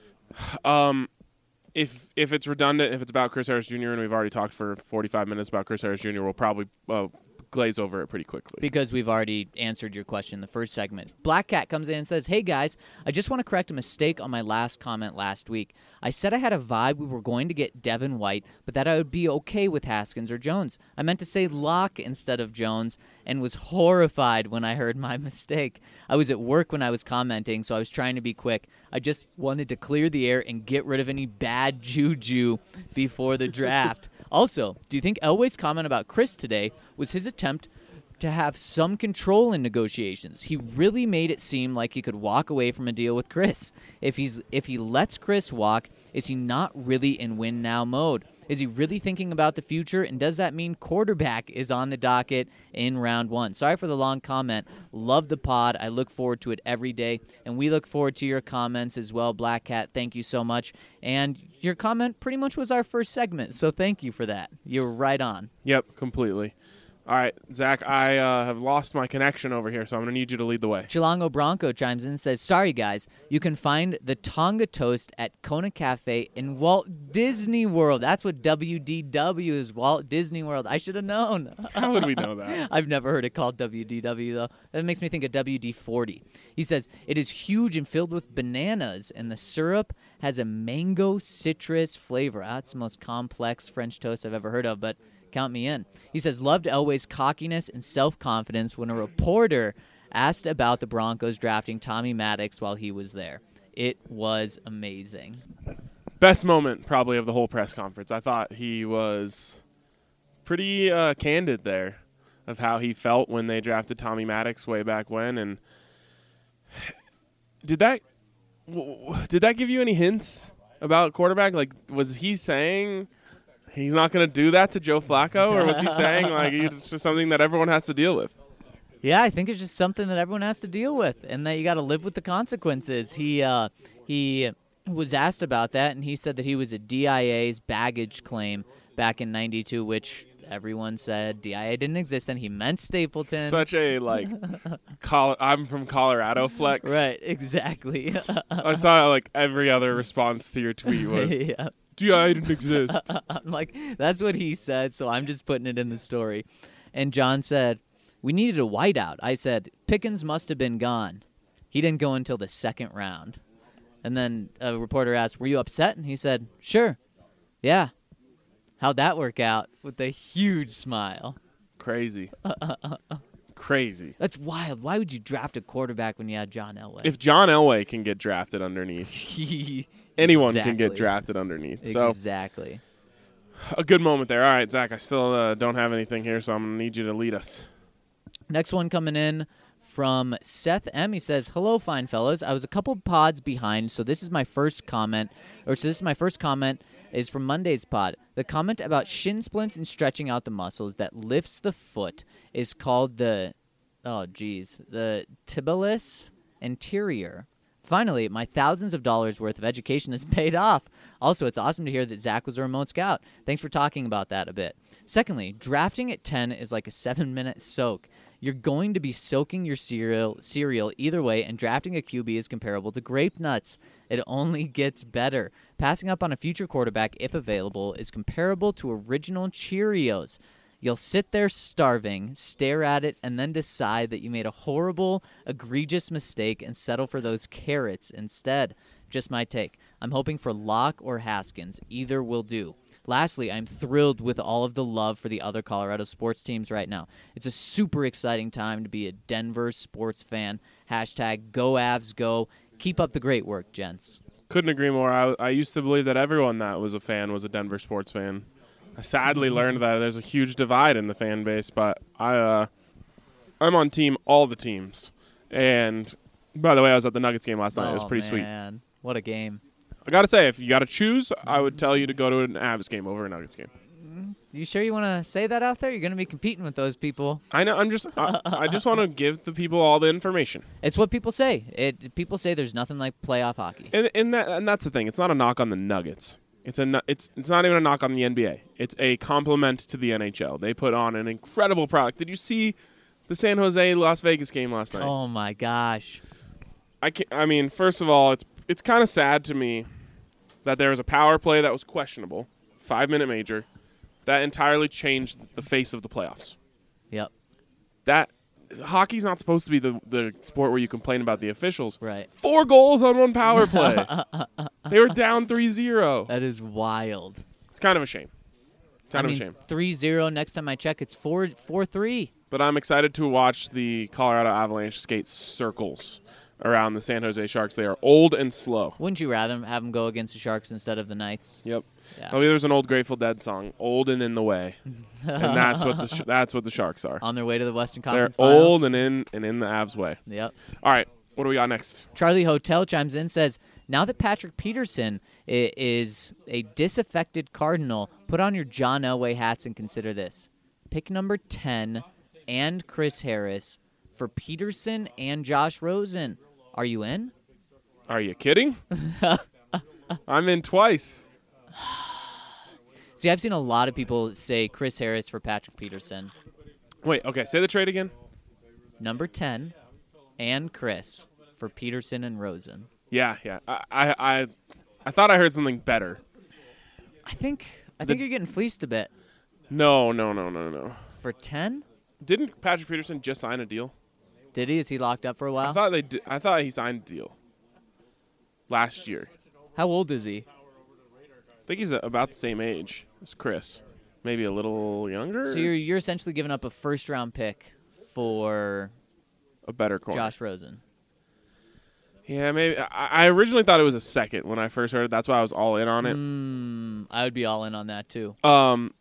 um if if it's redundant, if it's about Chris Harris Junior and we've already talked for forty-five minutes about Chris Harris Junior, we'll probably uh, glaze over it pretty quickly. Because we've already answered your question in the first segment. Black Cat comes in and says, "Hey guys, I just want to correct a mistake on my last comment last week. I said I had a vibe we were going to get Devin White, but that I would be okay with Haskins or Jones. I meant to say Locke instead of Jones and was horrified when I heard my mistake. I was at work when I was commenting, so I was trying to be quick. I just wanted to clear the air and get rid of any bad juju before the draft." Also, do you think Elway's comment about Chris today was his attempt to have some control in negotiations? He really made it seem like he could walk away from a deal with Chris. If he's if he lets Chris walk, is he not really in win now mode? Is he really thinking about the future? And does that mean quarterback is on the docket in round one? Sorry for the long comment. Love the pod. I look forward to it every day. And we look forward to your comments as well, Black Cat. Thank you so much. And your comment pretty much was our first segment, so thank you for that. You're right on. Yep, completely. All right, Zach, I uh, have lost my connection over here, so I'm going to need you to lead the way. Chilango Bronco chimes in and says, sorry, guys. You can find the Tonga Toast at Kona Cafe in Walt Disney World. That's what W D W is, Walt Disney World. I should have known. How would we know that? I've never heard it called W D W, though. That makes me think of W D forty. He says, it is huge and filled with bananas, and the syrup has a mango citrus flavor. That's the most complex French toast I've ever heard of, but count me in. He says, loved Elway's cockiness and self-confidence when a reporter asked about the Broncos drafting Tommy Maddox while he was there. It was amazing. Best moment, probably, of the whole press conference. I thought he was pretty uh, candid there of how he felt when they drafted Tommy Maddox way back when. And did that did that give you any hints about quarterback? Like, was he saying he's not going to do that to Joe Flacco, or was he saying like it's just something that everyone has to deal with? Yeah, I think it's just something that everyone has to deal with, and that you got to live with the consequences. He uh, he was asked about that, and he said that he was a D I A's baggage claim back in ninety-two, which everyone said D I A didn't exist, and he meant Stapleton. Such a like, Col- I'm from Colorado flex. Right, exactly. I saw like every other response to your tweet was Yeah. D I A didn't exist. I'm like, that's what he said, so I'm just putting it in the story. And John said, we needed a whiteout. I said, Pickens must have been gone. He didn't go until the second round. And then a reporter asked, were you upset? And he said, sure. Yeah. How'd that work out? With a huge smile. Crazy. Crazy. That's wild. Why would you draft a quarterback when you had John Elway? If John Elway can get drafted underneath, anyone Exactly. can get drafted underneath. So Exactly. a good moment there. All right, Zach, I still uh, don't have anything here, so I'm going to need you to lead us. Next one coming in from Seth M. He says, hello, fine fellows. I was a couple pods behind, so this is my first comment, or so this is my first comment is from Monday's pod. The comment about shin splints and stretching out the muscles that lifts the foot is called the, oh, geez, the tibialis anterior. Finally, my thousands of dollars worth of education has paid off. Also, it's awesome to hear that Zach was a remote scout. Thanks for talking about that a bit. Secondly, drafting at ten is like a seven-minute soak. You're going to be soaking your cereal cereal either way, and drafting a Q B is comparable to grape nuts. It only gets better. Passing up on a future quarterback, if available, is comparable to original Cheerios. You'll sit there starving, stare at it, and then decide that you made a horrible, egregious mistake and settle for those carrots instead. Just my take. I'm hoping for Locke or Haskins. Either will do. Lastly, I'm thrilled with all of the love for the other Colorado sports teams right now. It's a super exciting time to be a Denver sports fan. Hashtag go Avs go. Keep up the great work, gents. Couldn't agree more. I, I used to believe that everyone that was a fan was a Denver sports fan. I sadly learned that there's a huge divide in the fan base, but I, uh, I'm on team all the teams. And by the way, I was at the Nuggets game last night. Oh, It was pretty sweet. man. What a game. I got to say, if you got to choose, I would tell you to go to an Avs game over a Nuggets game. You sure you want to say that out there? You're going to be competing with those people. I know. I'm just. I, I just want to give the people all the information. It's what people say. It people say there's nothing like playoff hockey. And and that and that's the thing. It's not a knock on the Nuggets. It's a. no- It's it's not even a knock on the N B A. It's a compliment to the N H L. They put on an incredible product. Did you see the San Jose Las Vegas game last night? Oh my gosh. I can I mean, first of all, it's it's kind of sad to me that there was a power play that was questionable, five minute major, that entirely changed the face of the playoffs. Yep. That hockey's not supposed to be the the sport where you complain about the officials. Right. Four goals on one power play. They were down three zero. That is wild. It's kind of a shame. Kind I of mean, a shame. three zero. Next time I check, it's four four three. But I'm excited to watch the Colorado Avalanche skate circles around the San Jose Sharks. They are old and slow. Wouldn't you rather have them go against the Sharks instead of the Knights? Yep. Yeah. Oh, there's an old Grateful Dead song, "Old and in the Way," and that's what the sh- that's what the Sharks are. On their way to the Western They're Conference Finals. old and in and in the Avs way. Yep. All right, what do we got next? Charlie Hotel chimes in, says, now that Patrick Peterson i- is a disaffected Cardinal, put on your John Elway hats and consider this. Pick number ten and Chris Harris for Peterson and Josh Rosen. Are you in? Are you kidding? I'm in twice. See, I've seen a lot of people say Chris Harris for Patrick Peterson. Wait, okay, say the trade again. Number ten and Chris for Peterson and Rosen. Yeah, yeah. I, I, I, I thought I heard something better. I think I The- think you're getting fleeced a bit. No, no, no, no, no. For ten? Didn't Patrick Peterson just sign a deal? Did he? Is he locked up for a I while? thought they. Did, I thought he signed a deal last year. How old is he? I think he's about the same age as Chris, maybe a little younger. So you're you're essentially giving up a first round pick for a better corner. Josh Rosen. Yeah, maybe. I, I originally thought it was a second when I first heard it. That's why I was all in on it. Mm, I would be all in on that too. Um,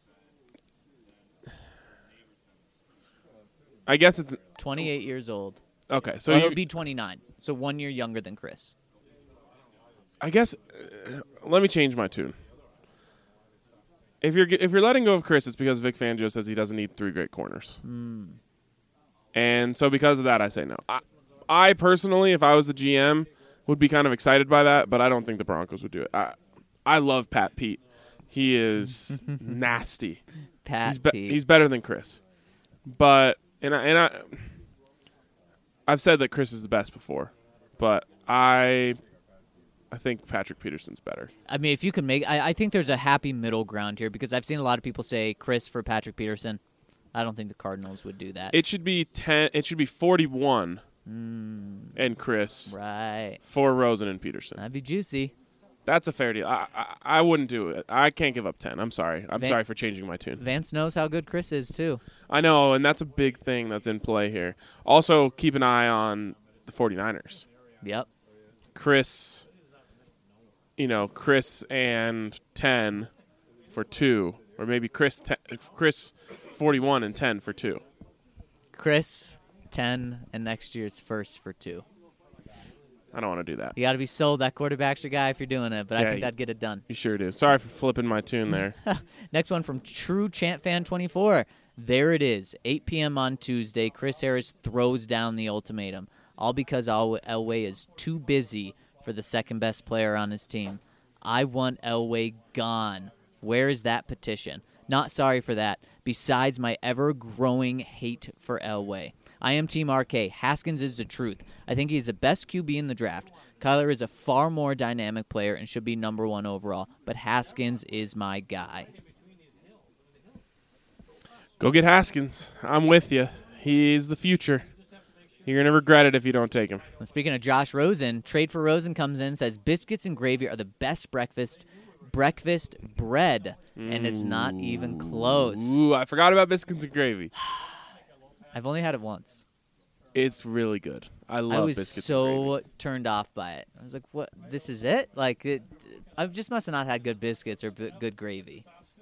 I guess it's twenty-eight years old. okay. So So you, he'll be twenty-nine. So one year younger than Chris. I guess uh, let me change my tune. If you're if you're letting go of Chris, it's because Vic Fangio says he doesn't need three great corners, Mm. and so because of that, I say no. I, I personally, if I was the G M, would be kind of excited by that, but I don't think the Broncos would do it. I I love Pat Pete. He is nasty. Pat He's be- Pete. he's better than Chris, but and I, and I I've said that Chris is the best before, but I. I think Patrick Peterson's better. I mean, if you can make, I, I think there's a happy middle ground here because I've seen a lot of people say Chris for Patrick Peterson. I don't think the Cardinals would do that. It should be ten. It should be forty-one, Mm, and Chris right. for Rosen and Peterson. That'd be juicy. That's a fair deal. I, I I wouldn't do it. I can't give up ten. I'm sorry. I'm Van- sorry for changing my tune. Vance knows how good Chris is too. I know, and that's a big thing that's in play here. Also, keep an eye on the 49ers. Yep. Chris. You know, Chris and ten for two, or maybe Chris ten, Chris forty-one and ten for two. Chris, ten, and next year's first for two. I don't want to do that. You got to be sold. That quarterback's your guy if you're doing it, but I Yeah, think you- that'd get it done. You sure do. Sorry for flipping my tune there. Next one from True Chant Fan twenty-four. There it is, eight p.m. on Tuesday. Chris Harris throws down the ultimatum, all because Al- Elway is too busy for the second best player on his team. I want Elway gone. Where is that petition? Not sorry for that. Besides my ever-growing hate for Elway. I am Team R K. Haskins is the truth. I think he's the best Q B in the draft. Kyler is a far more dynamic player and should be number one overall, but Haskins is my guy. Go get Haskins. I'm with you. He's the future. You're going to regret it if you don't take him. Well, speaking of Josh Rosen, Trade for Rosen comes in, says biscuits and gravy are the best breakfast breakfast bread, and it's not even close. Ooh, I forgot about biscuits and gravy. I've only had it once. It's really good. I love I was biscuits and gravy. so turned off by it. I was like, "What? This is it? Like, it, I just must have not had good biscuits or b- good gravy."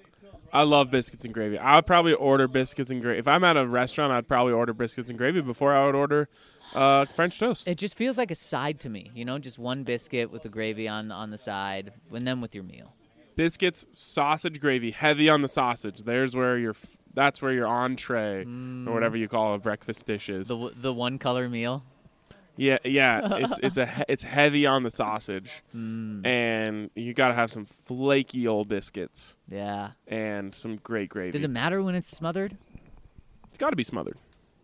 I love biscuits and gravy. I would probably order biscuits and gravy. If I'm at a restaurant, I'd probably order biscuits and gravy before I would order uh, French toast. It just feels like a side to me, you know, just one biscuit with the gravy on on the side, and then with your meal. Biscuits, sausage gravy, heavy on the sausage. There's where your f- that's where your entree or whatever you call a breakfast dish is. The w- the one color meal. Yeah, yeah. It's it's a he- it's heavy on the sausage, Mm, and you got to have some flaky old biscuits yeah. and some great gravy. Does it matter when it's smothered? It's got to be smothered.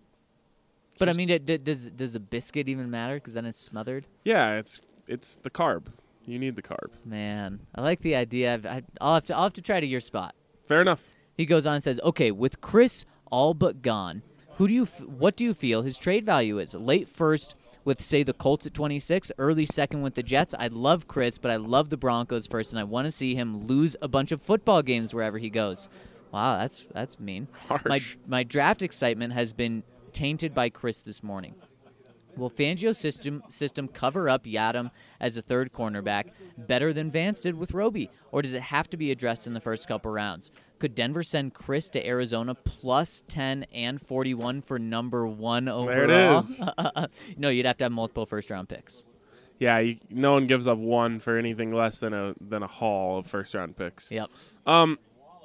But I Just- mean, it, d- does does a biscuit even matter? Because then it's smothered. Yeah, it's it's the carb. You need the carb. Man, I like the idea. I've, I, I'll have to I'll have to try to your spot. Fair enough. He goes on and says, "Okay, with Chris all but gone, who do you f- what do you feel his trade value is? Late first with say the Colts at twenty-six, early second with the Jets. I love Chris, but I love the Broncos first, and I want to see him lose a bunch of football games wherever he goes." Wow, that's that's mean. Harsh. My my draft excitement has been tainted by Chris this morning. Will Fangio's system system cover up Yadam as a third cornerback better than Vance did with Roby? Or does it have to be addressed in the first couple rounds? Could Denver send Chris to Arizona plus ten and forty-one for number one overall? There it is. No, you'd have to have multiple first-round picks. Yeah, you, no one gives up one for anything less than a than a haul of first round picks. Yep. Um,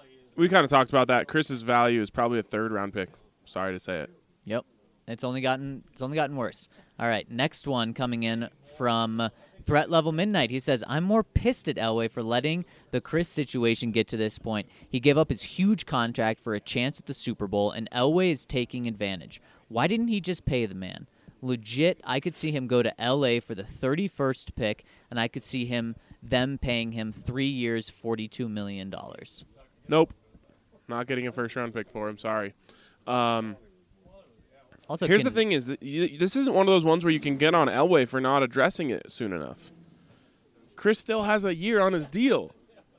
we kind of talked about that. Chris's value is probably a third round pick. Sorry to say it. Yep. It's only gotten it's only gotten worse. All right, next one coming in from Threat Level Midnight, he says, I'm more pissed at Elway for letting the Chris situation get to this point. He gave up his huge contract for a chance at the Super Bowl, and Elway is taking advantage. Why didn't he just pay the man? Legit, I could see him go to L A for the thirty-first pick, and I could see him them paying him three years, forty-two million dollars. Nope. Not getting a first-round pick for him. Sorry. Um, Also, here's can, the thing is, that you, this isn't one of those ones where you can get on Elway for not addressing it soon enough. Chris still has a year on his deal.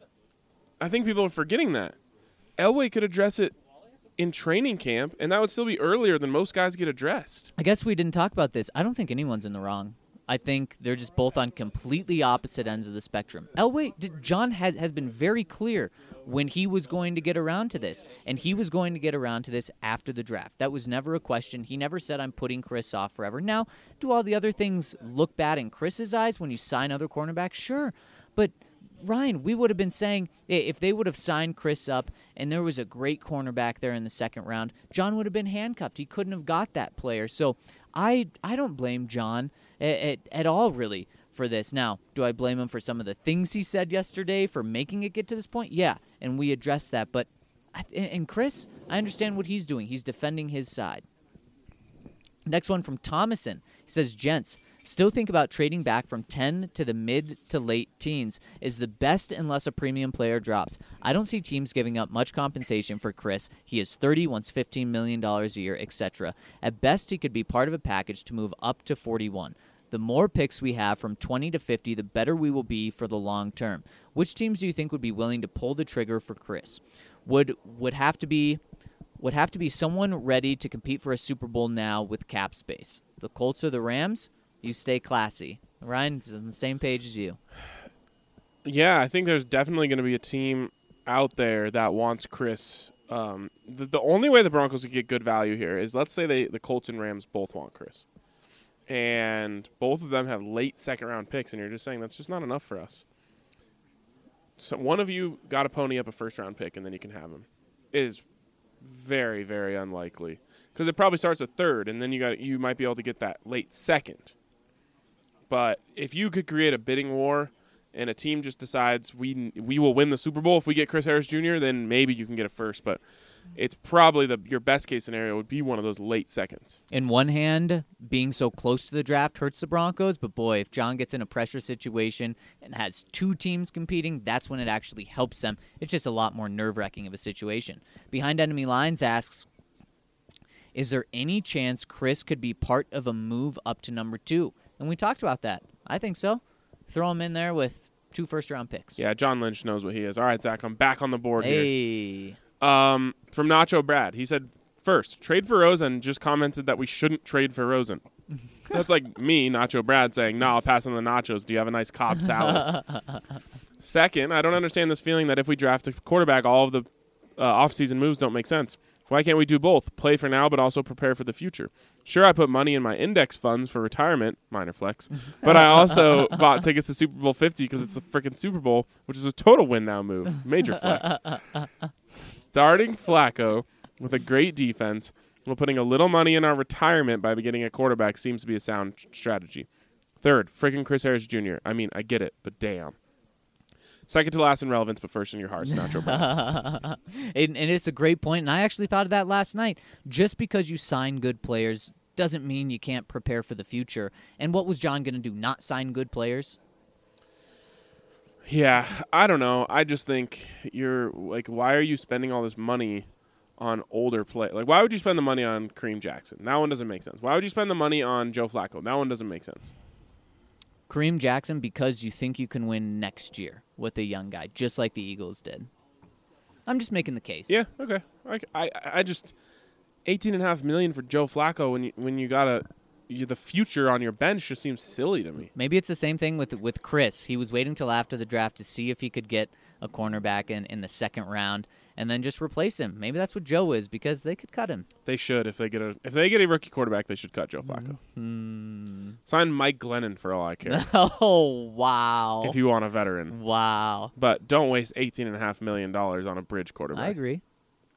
I think people are forgetting that. Elway could address it in training camp, and that would still be earlier than most guys get addressed. I guess we didn't talk about this. I don't think anyone's in the wrong. I think they're just both on completely opposite ends of the spectrum. Elway, did, John has, has been very clear when he was going to get around to this, and he was going to get around to this after the draft. That was never a question. He never said, I'm putting Chris off forever. Now, do all the other things look bad in Chris's eyes when you sign other cornerbacks? Sure, but Ryan, we would have been saying if they would have signed Chris up and there was a great cornerback there in the second round, John would have been handcuffed. He couldn't have got that player. So I I don't blame John at, at, at all, really, for this. Now, do I blame him for some of the things he said yesterday for making it get to this point? Yeah, and we addressed that. But and Chris, I understand what he's doing. He's defending his side. Next one from Thomason. He says, gents, still think about trading back from ten to the mid to late teens is the best unless a premium player drops. I don't see teams giving up much compensation for Chris. He is thirty, wants fifteen million dollars a year, et cetera. At best, he could be part of a package to move up to forty-one. The more picks we have from twenty to fifty, the better we will be for the long term. Which teams do you think would be willing to pull the trigger for Chris? Would would have to be would have to be someone ready to compete for a Super Bowl now with cap space. The Colts or the Rams? You stay classy. Ryan's on the same page as you. Yeah, I think there's definitely going to be a team out there that wants Chris. Um, the, the only way the Broncos could get good value here is, let's say they the Colts and Rams both want Chris. And both of them have late second-round picks, and you're just saying that's just not enough for us. So one of you got to pony up a first-round pick, and then you can have him. It is very, very unlikely. Because it probably starts at third, and then you got you might be able to get that late second. But if you could create a bidding war and a team just decides we we will win the Super Bowl if we get Chris Harris Junior, then maybe you can get a first. But it's probably the your best case scenario would be one of those late seconds. In one hand, being so close to the draft hurts the Broncos, but boy, if John gets in a pressure situation and has two teams competing, that's when it actually helps them. It's just a lot more nerve-wracking of a situation. Behind Enemy Lines asks, is there any chance Chris could be part of a move up to number two? And we talked about that. I think so. Throw him in there with two first-round picks. Yeah, John Lynch knows what he is. All right, Zach, I'm back on the board hey. here. Um, from Nacho Brad, he said, first, trade for Rosen, just commented that we shouldn't trade for Rosen. That's like me, Nacho Brad, saying, no, I'll pass on the nachos. Do you have a nice Cobb salad? Second, I don't understand this feeling that if we draft a quarterback, all of the uh, off-season moves don't make sense. Why can't we do both? Play for now, but also prepare for the future. Sure, I put money in my index funds for retirement, minor flex, but I also bought tickets to Super Bowl fifty because it's a freaking Super Bowl, which is a total win now move, major flex. Starting Flacco with a great defense while putting a little money in our retirement by getting a quarterback seems to be a sound strategy. Third, freaking Chris Harris Junior I mean, I get it, but damn. Second to last in relevance, but first in your hearts, Nacho Brown. and, and it's a great point, and I actually thought of that last night. Just because you sign good players doesn't mean you can't prepare for the future. And what was John going to do, not sign good players? Yeah, I don't know. I just think you're, like, why are you spending all this money on older play? Like, why would you spend the money on Kareem Jackson? That one doesn't make sense. Why would you spend the money on Joe Flacco? That one doesn't make sense. Kareem Jackson because you think you can win next year with a young guy, just like the Eagles did. I'm just making the case. Yeah, okay. I, I, I just eighteen and a half million for Joe Flacco when you when you got a you, the future on your bench just seems silly to me. Maybe it's the same thing with with Chris. He was waiting till after the draft to see if he could get a cornerback in, in the second round and then just replace him. Maybe that's what Joe is because they could cut him. They should if they get a if they get a rookie quarterback, they should cut Joe Flacco. Mm-hmm. Sign Mike Glennon for all I care. Oh wow! If you want a veteran, wow. But don't waste eighteen and a half million dollars on a bridge quarterback. I agree.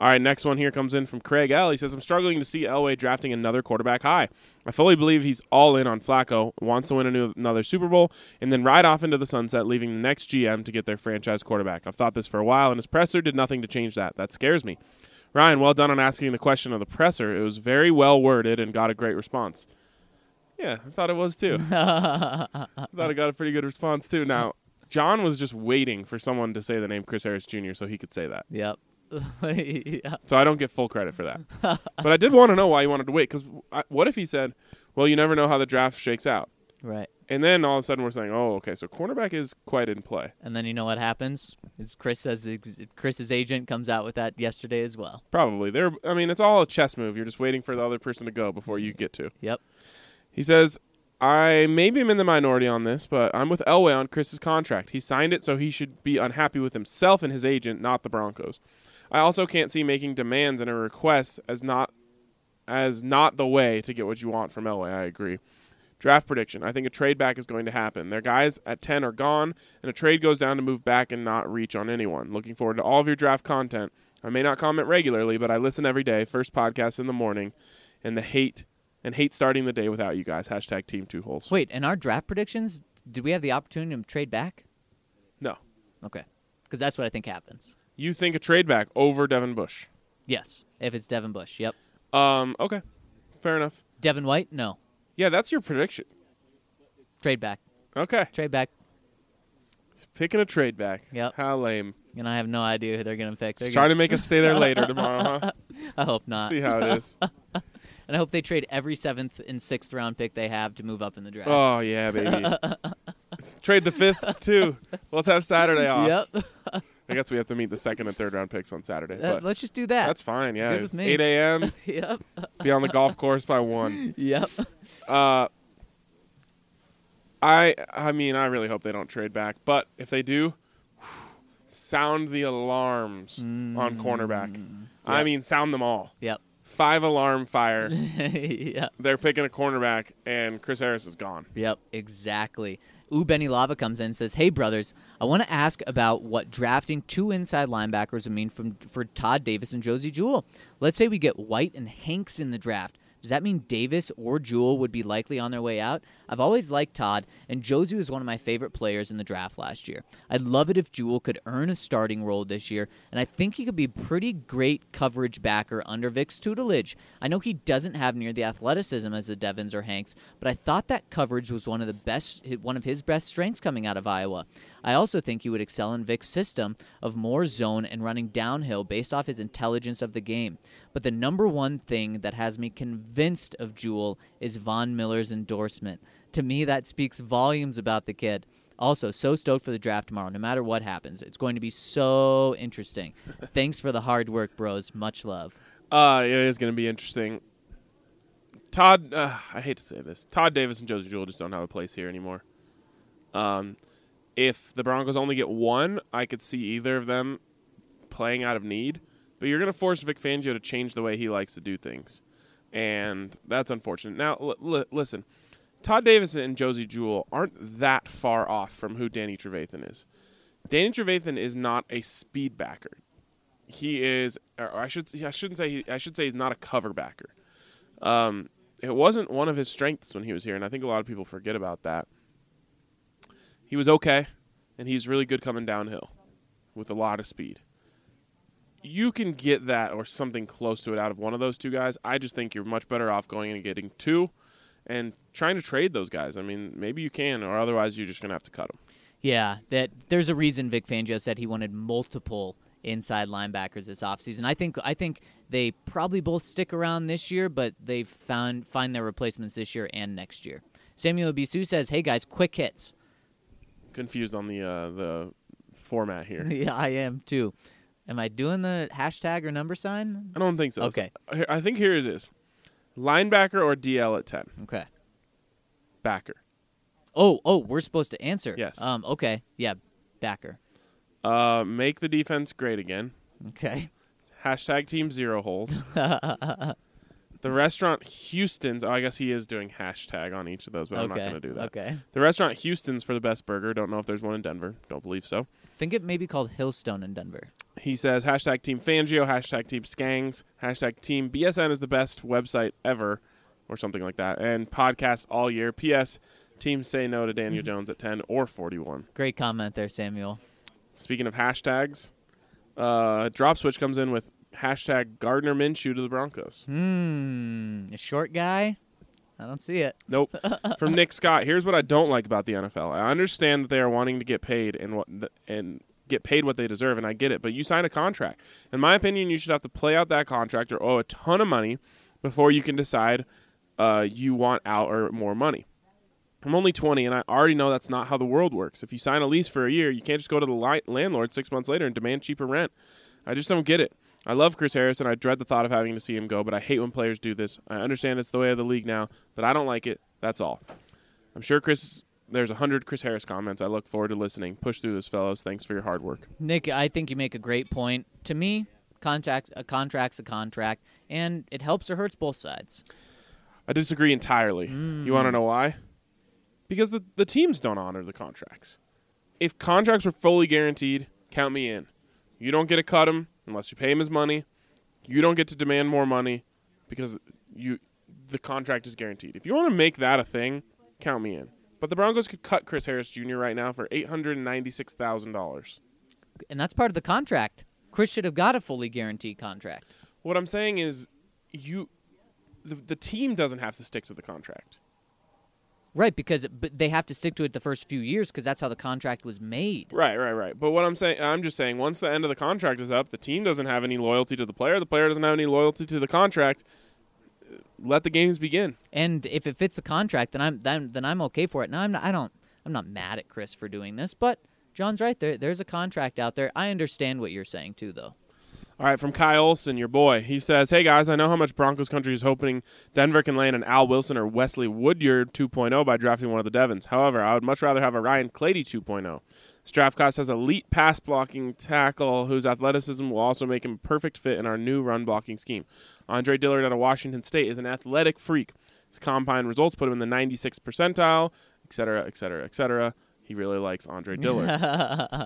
All right, next one here comes in from Craig L. He says, I'm struggling to see Elway drafting another quarterback high. I fully believe he's all in on Flacco, wants to win a new, another Super Bowl, and then ride off into the sunset, leaving the next G M to get their franchise quarterback. I've thought this for a while, and his presser did nothing to change that. That scares me. Ryan, well done on asking the question of the presser. It was very well worded and got a great response. Yeah, I thought it was too. I thought I got a pretty good response too. Now, John was just waiting for someone to say the name Chris Harris Junior so he could say that. Yep. Yeah. So I don't get full credit for that. But I did want to know why he wanted to wait, because what if he said, well, you never know how the draft shakes out. Right. And then all of a sudden we're saying, oh, okay, so cornerback is quite in play. And then you know what happens? Is Chris says Chris's agent comes out with that yesterday as well. Probably. They're, I mean, it's all a chess move. You're just waiting for the other person to go before you get to. Yep. He says, I maybe am in the minority on this, but I'm with Elway on Chris's contract. He signed it, so he should be unhappy with himself and his agent, not the Broncos. I also can't see making demands and a request as not as not the way to get what you want from Elway. I agree. Draft prediction. I think a trade back is going to happen. Their guys at ten are gone, and a trade goes down to move back and not reach on anyone. Looking forward to all of your draft content. I may not comment regularly, but I listen every day. First podcast in the morning, and the hate and hate starting the day without you guys. Hashtag team two holes. Wait, and our draft predictions, did we have the opportunity to trade back? No. Okay. Because that's what I think happens. You think a trade back over Devin Bush? Yes, if it's Devin Bush. Yep. Um. Okay. Fair enough. Devin White? No. Yeah, that's your prediction. Trade back. Okay. Trade back. Picking a trade back. Yep. How lame. And I have no idea who they're going to pick. They're Just gonna... trying to make us stay there later tomorrow, huh? I hope not. See how it is. And I hope they trade every seventh and sixth round pick they have to move up in the draft. Oh, yeah, baby. Trade the fifths, too. Let's have Saturday off. Yep. I guess we have to meet the second and third round picks on Saturday. Uh, But let's just do that. that's fine, yeah. Good It's with me. eight a.m. Yep. Be on the golf course by one. Yep. Uh, I I mean, I really hope they don't trade back. But if they do, sound the alarms on cornerback. I Yep. mean, sound them all. Yep. Five alarm fire. Yep. They're picking a cornerback, and Chris Harris is gone. Yep, exactly. Ooh, Benny Lava comes in and says, hey, brothers, I want to ask about what drafting two inside linebackers would mean from, for Todd Davis and Josie Jewell. Let's say we get White and Hanks in the draft. Does that mean Davis or Jewell would be likely on their way out? I've always liked Todd, and Josie was one of my favorite players in the draft last year. I'd love it if Jewell could earn a starting role this year, and I think he could be a pretty great coverage backer under Vic's tutelage. I know he doesn't have near the athleticism as the Devins or Hanks, but I thought that coverage was one of the best, one of his best strengths coming out of Iowa. I also think he would excel in Vic's system of more zone and running downhill based off his intelligence of the game. But the number one thing that has me convinced of Jewell is Von Miller's endorsement. To me, that speaks volumes about the kid. Also, so stoked for the draft tomorrow, no matter what happens. It's going to be so interesting. Thanks for the hard work, bros. Much love. Uh, it is going to be interesting. Todd, uh, I hate to say this, Todd Davis and Josie Jewell just don't have a place here anymore. Um, if the Broncos only get one, I could see either of them playing out of need. But you're going to force Vic Fangio to change the way he likes to do things. And that's unfortunate. Now, l- l- listen, Todd Davis and Josie Jewell aren't that far off from who Danny Trevathan is. Danny Trevathan is not a speed backer. He is, or I should, I shouldn't say, he, I should say he's not a cover backer. Um, it wasn't one of his strengths when he was here, and I think a lot of people forget about that. He was okay, and he's really good coming downhill with a lot of speed. You can get that or something close to it out of one of those two guys. I just think you're much better off going and getting two and trying to trade those guys. I mean, maybe you can, or otherwise you're just going to have to cut them. Yeah, that there's a reason Vic Fangio said he wanted multiple inside linebackers this offseason. I think I think they probably both stick around this year, but they've found find their replacements this year and next year. Samuel Bisu says, hey, guys, quick hits. Confused on the uh, the format here. Yeah, I am, too. Am I doing the hashtag or number sign? I don't think so. Okay. So, I think here it is. Linebacker or D L at ten? Okay. Backer. Oh, oh, we're supposed to answer. Yes. Um. Okay. Yeah, backer. Uh, make the defense great again. Okay. Hashtag team zero holes. The restaurant Houston's. Oh, I guess he is doing hashtag on each of those, but I'm not Okay. going to do that. Okay. The restaurant Houston's for the best burger. Don't know if there's one in Denver. Don't believe so. I think it may be called Hillstone in Denver. He says, hashtag Team Fangio, hashtag Team Skangs, hashtag Team B S N is the best website ever, or something like that, and podcasts all year. P S. Team say no to Daniel Jones at ten or forty-one. Great comment there, Samuel. Speaking of hashtags, uh, Drop Switch comes in with hashtag Gardner Minshew to the Broncos. Hmm, a short guy? I don't see it. Nope. From Nick Scott, here's what I don't like about the N F L. I understand that they are wanting to get paid and what the, and get paid what they deserve, and I get it, but you sign a contract. In my opinion, you should have to play out that contract or owe a ton of money before you can decide uh, you want out or more money. I'm only twenty, and I already know that's not how the world works. If you sign a lease for a year, you can't just go to the li- landlord six months later and demand cheaper rent. I just don't get it. I love Chris Harris, and I dread the thought of having to see him go, but I hate when players do this. I understand it's the way of the league now, but I don't like it. That's all. I'm sure Chris, there's one hundred Chris Harris comments. I look forward to listening. Push through this, fellows. Thanks for your hard work. Nick, I think you make a great point. To me, contract's a contract's a contract, and it helps or hurts both sides. I disagree entirely. Mm. You want to know why? Because the, the teams don't honor the contracts. If contracts were fully guaranteed, count me in. You don't get to cut him unless you pay him his money. You don't get to demand more money because you the contract is guaranteed. If you want to make that a thing, count me in. But the Broncos could cut Chris Harris Junior right now for eight hundred ninety-six thousand dollars. And that's part of the contract. Chris should have got a fully guaranteed contract. What I'm saying is you the, the team doesn't have to stick to the contract. Right, because it, but they have to stick to it the first few years because that's how the contract was made. Right, right, right. But what I'm saying, I'm just saying, once the end of the contract is up, the team doesn't have any loyalty to the player. The player doesn't have any loyalty to the contract. Let the games begin. And if it fits the contract, then I'm then, then I'm okay for it. Now I'm not, I don't I'm not mad at Chris for doing this, but John's right. There there's a contract out there. I understand what you're saying too, though. All right, from Kyle Olson, your boy. He says, hey, guys, I know how much Broncos country is hoping Denver can land an Al Wilson or Wesley Woodyard two point oh by drafting one of the Devons. However, I would much rather have a Ryan Clady two point oh. This draft class has elite pass-blocking tackle whose athleticism will also make him a perfect fit in our new run-blocking scheme. Andre Dillard out of Washington State is an athletic freak. His combine results put him in the ninety-sixth percentile, et cetera, et cetera, et cetera. He really likes Andre Dillard.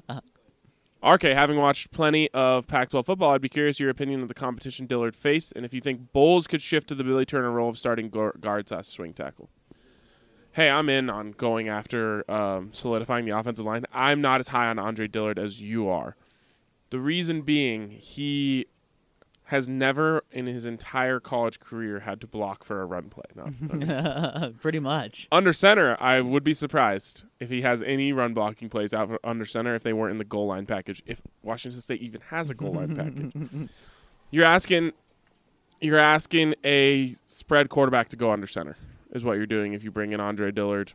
R K, having watched plenty of Pac twelve football, I'd be curious your opinion of the competition Dillard faced, and if you think Bowles could shift to the Billy Turner role of starting guard slash swing tackle. Hey, I'm in on going after um, solidifying the offensive line. I'm not as high on Andre Dillard as you are. The reason being, he has never in his entire college career had to block for a run play. No, I mean, pretty much. under center, I would be surprised if he has any run blocking plays out under center if they weren't in the goal line package, if Washington State even has a goal line package. You're asking you're asking a spread quarterback to go under center is what you're doing if you bring in Andre Dillard.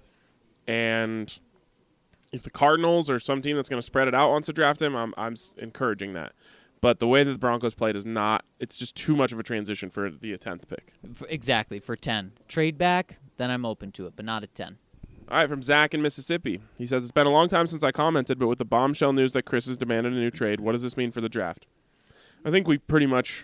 And if the Cardinals or some team that's going to spread it out wants to draft him, I'm I'm encouraging that. But the way that the Broncos played is not – it's just too much of a transition for the tenth pick. For, exactly, for ten. Trade back, then I'm open to it, but not at ten. All right, from Zach in Mississippi. He says, it's been a long time since I commented, but with the bombshell news that Chris has demanded a new trade, what does this mean for the draft? I think we pretty much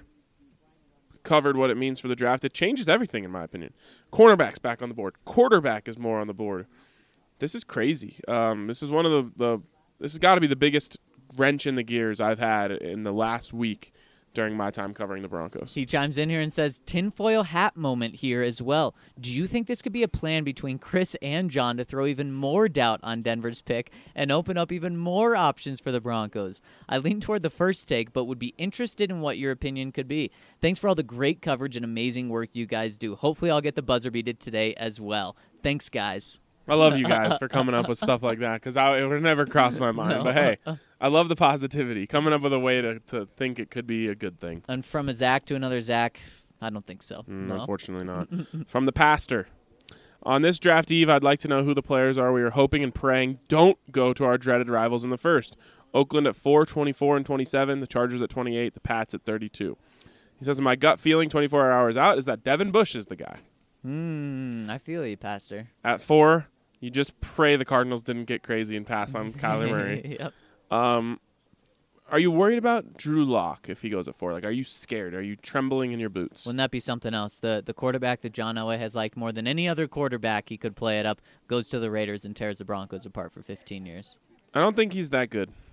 covered what it means for the draft. It changes everything, in my opinion. Cornerback's back on the board. Quarterback is more on the board. This is crazy. Um, this is one of the, the – this has got to be the biggest – wrench in the gears I've had in the last week during my time covering the Broncos. He chimes in here and says, tinfoil hat moment here as well. Do you think this could be a plan between Chris and John to throw even more doubt on Denver's pick and open up even more options for the Broncos? I lean toward the first take, but would be interested in what your opinion could be. Thanks for all the great coverage and amazing work you guys do. Hopefully I'll get the buzzer beated today as well. Thanks, guys. I love you guys for coming up with stuff like that because it would never cross my mind. No. But, hey, I love the positivity. Coming up with a way to, to think it could be a good thing. And from a Zach to another Zach, I don't think so. Mm, no? Unfortunately not. From the pastor. On this draft eve, I'd like to know who the players are we are hoping and praying don't go to our dreaded rivals in the first. Oakland at four, twenty-four, and twenty-seven. The Chargers at twenty-eight. The Pats at thirty-two. He says, my gut feeling twenty-four hours out is that Devin Bush is the guy. Hmm, I feel you, Pastor. At four, you just pray the Cardinals didn't get crazy and pass on Kyler Murray. Yep. Um, are you worried about Drew Lock if he goes at four? Like, are you scared? Are you trembling in your boots? Wouldn't that be something else? The the quarterback that John Elway has liked more than any other quarterback he could play it up goes to the Raiders and tears the Broncos apart for fifteen years. I don't think he's that good.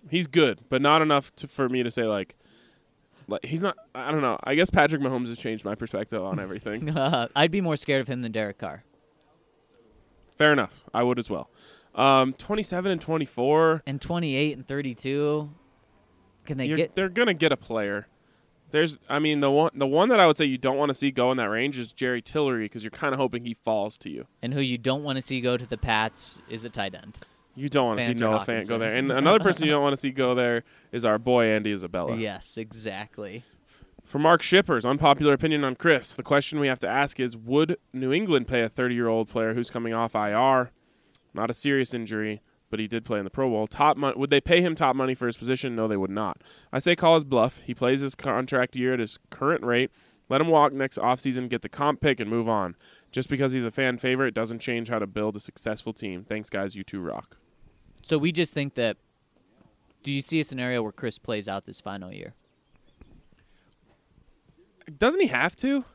He's good, but not enough to, for me to say, like, like, he's not, I don't know. I guess Patrick Mahomes has changed my perspective on everything. Uh, I'd be more scared of him than Derek Carr. Fair enough. I would as well. Um, twenty-seven and twenty-four. And twenty-eight and thirty-two. Can they You're, get... They're going to get a player. There's, I mean, the one the one that I would say you don't want to see go in that range is Jerry Tillery because you're kind of hoping he falls to you. And who you don't want to see go to the Pats is a tight end. You don't want to see Fanter Noah Fant Hawkinson. go there. And another person you don't want to see go there is our boy Andy Isabella. Yes, exactly. For Mark Shippers, unpopular opinion on Chris. The question we have to ask is, would New England pay a thirty-year-old player who's coming off I R? Not a serious injury, but he did play in the Pro Bowl. Top mon- Would they pay him top money for his position? No, they would not. I say call his bluff. He plays his contract year at his current rate. Let him walk next offseason, get the comp pick, and move on. Just because he's a fan favorite doesn't change how to build a successful team. Thanks, guys. You two rock. So we just think that, do you see a scenario where Chris plays out this final year? Doesn't he have to?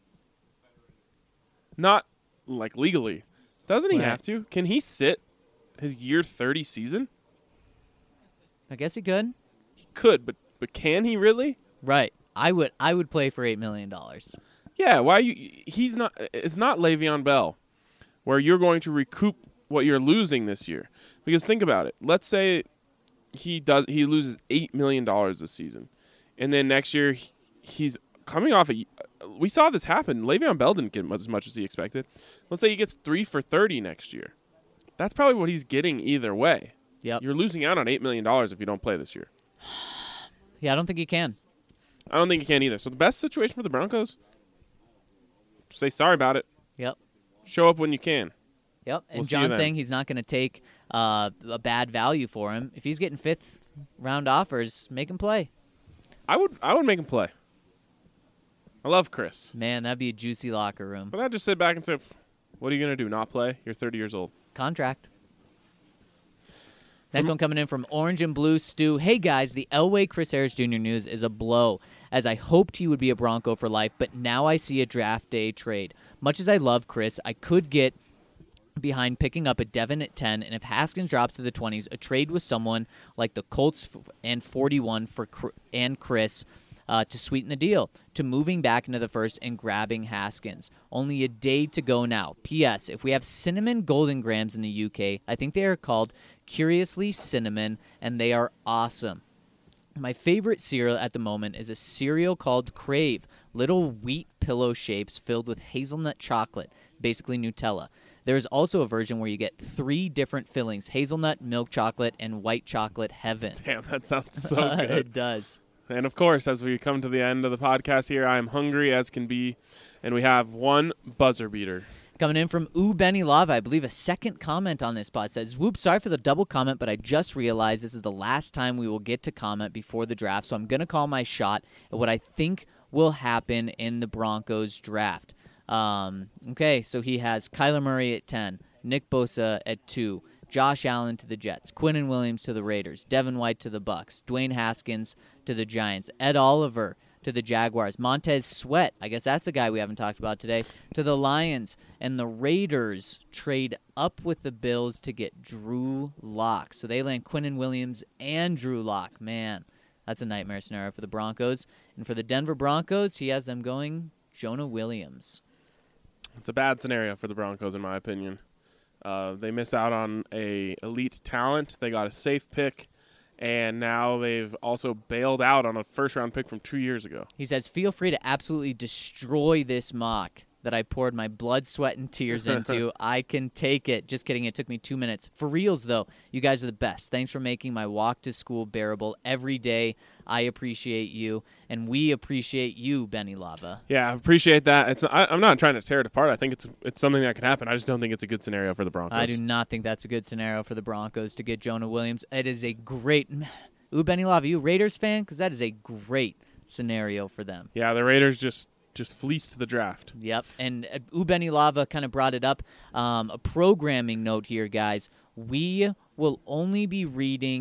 Not, like, legally. Doesn't he Right. have to? Can he sit his year thirty season? I guess he could. He could, but but can he really? Right. I would I would play for eight million dollars. Yeah, why you he's not it's not Le'Veon Bell where you're going to recoup what you're losing this year. Because think about it. Let's say he does he loses eight million dollars this season. And then next year he, he's coming off a we saw this happen. Le'Veon Bell didn't get as much as he expected. Let's say he gets three for thirty next year. That's probably what he's getting either way. Yep. You're losing out on eight million dollars if you don't play this year. Yeah, I don't think he can. I don't think he can either. So the best situation for the Broncos, say sorry about it. Yep. Show up when you can. Yep. And We'll see you John's then. saying he's not going to take uh, a bad value for him. If he's getting fifth round offers, make him play. I would I would make him play. I love Chris. Man, that'd be a juicy locker room. But I'd just sit back and say, what are you going to do? Not play? You're thirty years old. Contract. Next one coming in from Orange and Blue Stu. Hey, guys, the Elway Chris Harris Junior news is a blow, as I hoped he would be a Bronco for life, but now I see a draft day trade. Much as I love Chris, I could get behind picking up a Devin at ten, and if Haskins drops to the twenties, a trade with someone like the Colts f- and forty-one for Cr- and Chris uh, to sweeten the deal, to moving back into the first and grabbing Haskins. Only a day to go now. P S. If we have cinnamon golden grams in the U K, I think they are called Curiously Cinnamon, and they are awesome. My favorite cereal at the moment is a cereal called Crave, little wheat pillow shapes filled with hazelnut chocolate, basically Nutella. There is also a version where you get three different fillings, hazelnut, milk chocolate, and white chocolate heaven. Damn, that sounds so it good. does. And, of course, as we come to the end of the podcast here, I am hungry as can be, and we have one buzzer beater. Coming in from Ooh Benny Lava, I believe a second comment on this pod says, whoop, sorry for the double comment, but I just realized this is the last time we will get to comment before the draft, so I'm going to call my shot at what I think will happen in the Broncos draft. Um, okay, so he has Kyler Murray at ten, Nick Bosa at two, Josh Allen to the Jets, Quinnen Williams to the Raiders, Devin White to the Bucks, Dwayne Haskins to the Giants, Ed Oliver to the Jaguars, Montez Sweat, I guess that's a guy we haven't talked about today, to the Lions, and the Raiders trade up with the Bills to get Drew Lock. So they land Quinnen Williams and Drew Lock. Man, that's a nightmare scenario for the Broncos. And for the Denver Broncos, he has them going Jonah Williams. It's a bad scenario for the Broncos, in my opinion. Uh, they miss out on a elite talent. They got a safe pick, and now they've also bailed out on a first-round pick from two years ago. He says, feel free to absolutely destroy this mock that I poured my blood, sweat, and tears into. I can take it. Just kidding. It took me two minutes. For reals, though, you guys are the best. Thanks for making my walk to school bearable every day. I appreciate you, and we appreciate you, Benny Lava. Yeah, I appreciate that. It's I, I'm not trying to tear it apart. I think it's it's something that can happen. I just don't think it's a good scenario for the Broncos. I do not think that's a good scenario for the Broncos to get Jonah Williams. It is a great – ooh, Benny Lava, you a Raiders fan? Because that is a great scenario for them. Yeah, the Raiders just just fleeced the draft. Yep, and uh, Ubeni Lava kind of brought it up. Um, a programming note here, guys. We will only be reading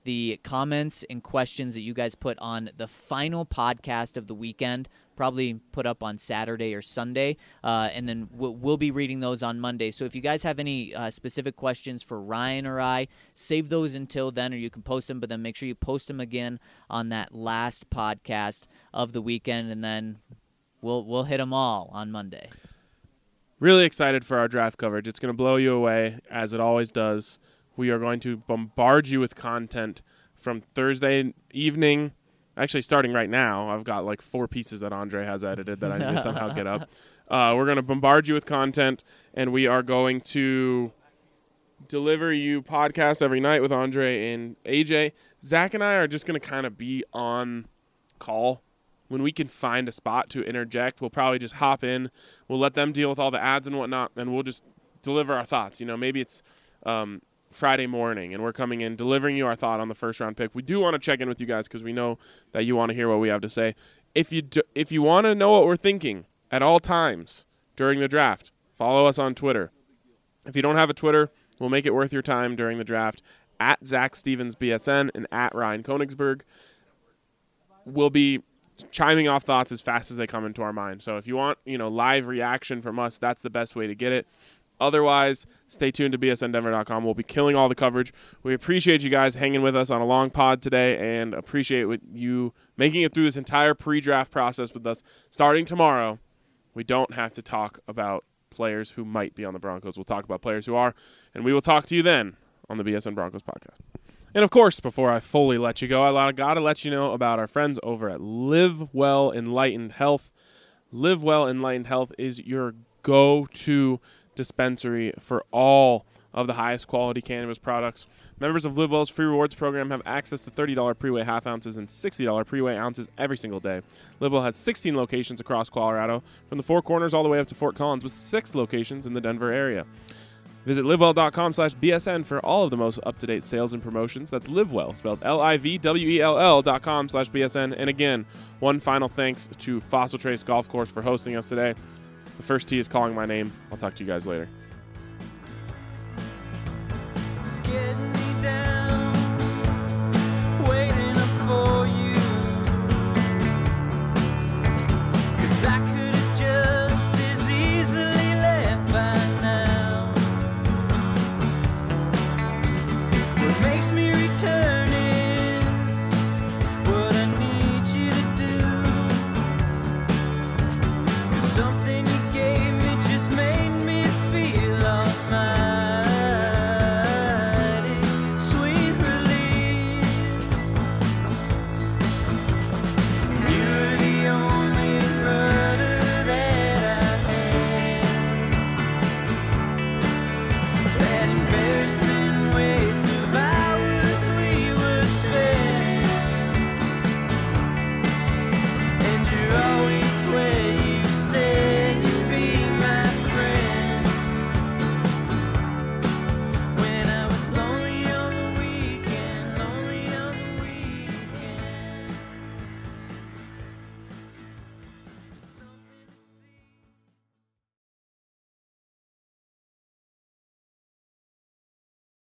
the comments and questions that you guys put on the final podcast of the weekend, probably put up on Saturday or Sunday, uh, and then we'll, we'll be reading those on Monday. So if you guys have any uh, specific questions for Ryan or I, save those until then, or you can post them, but then make sure you post them again on that last podcast of the weekend, and then we'll we'll hit them all on Monday. Really excited for our draft coverage. It's going to blow you away, as it always does. We are going to bombard you with content from Thursday evening. Actually, starting right now, I've got like four pieces that Andre has edited that I need to somehow get up. Uh, we're going to bombard you with content, and we are going to deliver you podcasts every night with Andre and A J. Zach and I are just going to kind of be on call. When we can find a spot to interject, we'll probably just hop in. We'll let them deal with all the ads and whatnot, and we'll just deliver our thoughts. You know, maybe it's um, Friday morning, and we're coming in, delivering you our thought on the first-round pick. We do want to check in with you guys because we know that you want to hear what we have to say. If you do, if you want to know what we're thinking at all times during the draft, follow us on Twitter. If you don't have a Twitter, we'll make it worth your time during the draft. At Zach Stevens B S N and at Ryan Konigsberg. We'll be chiming off thoughts as fast as they come into our mind. So if you want, you know, live reaction from us, that's the best way to get it. Otherwise, stay tuned to B S N Denver dot com. We'll be killing all the coverage. We appreciate you guys hanging with us on a long pod today, and appreciate what you making it through this entire pre-draft process with us. Starting tomorrow, we don't have to talk about players who might be on the Broncos. We'll talk about players who are, and we will talk to you then on the B S N Broncos podcast. And, of course, before I fully let you go, I got to let you know about our friends over at Live Well Enlightened Health. Live Well Enlightened Health is your go-to dispensary for all of the highest quality cannabis products. Members of Live Well's free rewards program have access to thirty dollars pre-weigh half ounces and sixty dollars pre-weigh ounces every single day. Live Well has sixteen locations across Colorado, from the Four Corners all the way up to Fort Collins, with six locations in the Denver area. Visit livewell.com slash BSN for all of the most up-to-date sales and promotions. That's Livewell, spelled L I V W E L L dot com slash B S N. And again, one final thanks to Fossil Trace Golf Course for hosting us today. The first tee is calling my name. I'll talk to you guys later. It's getting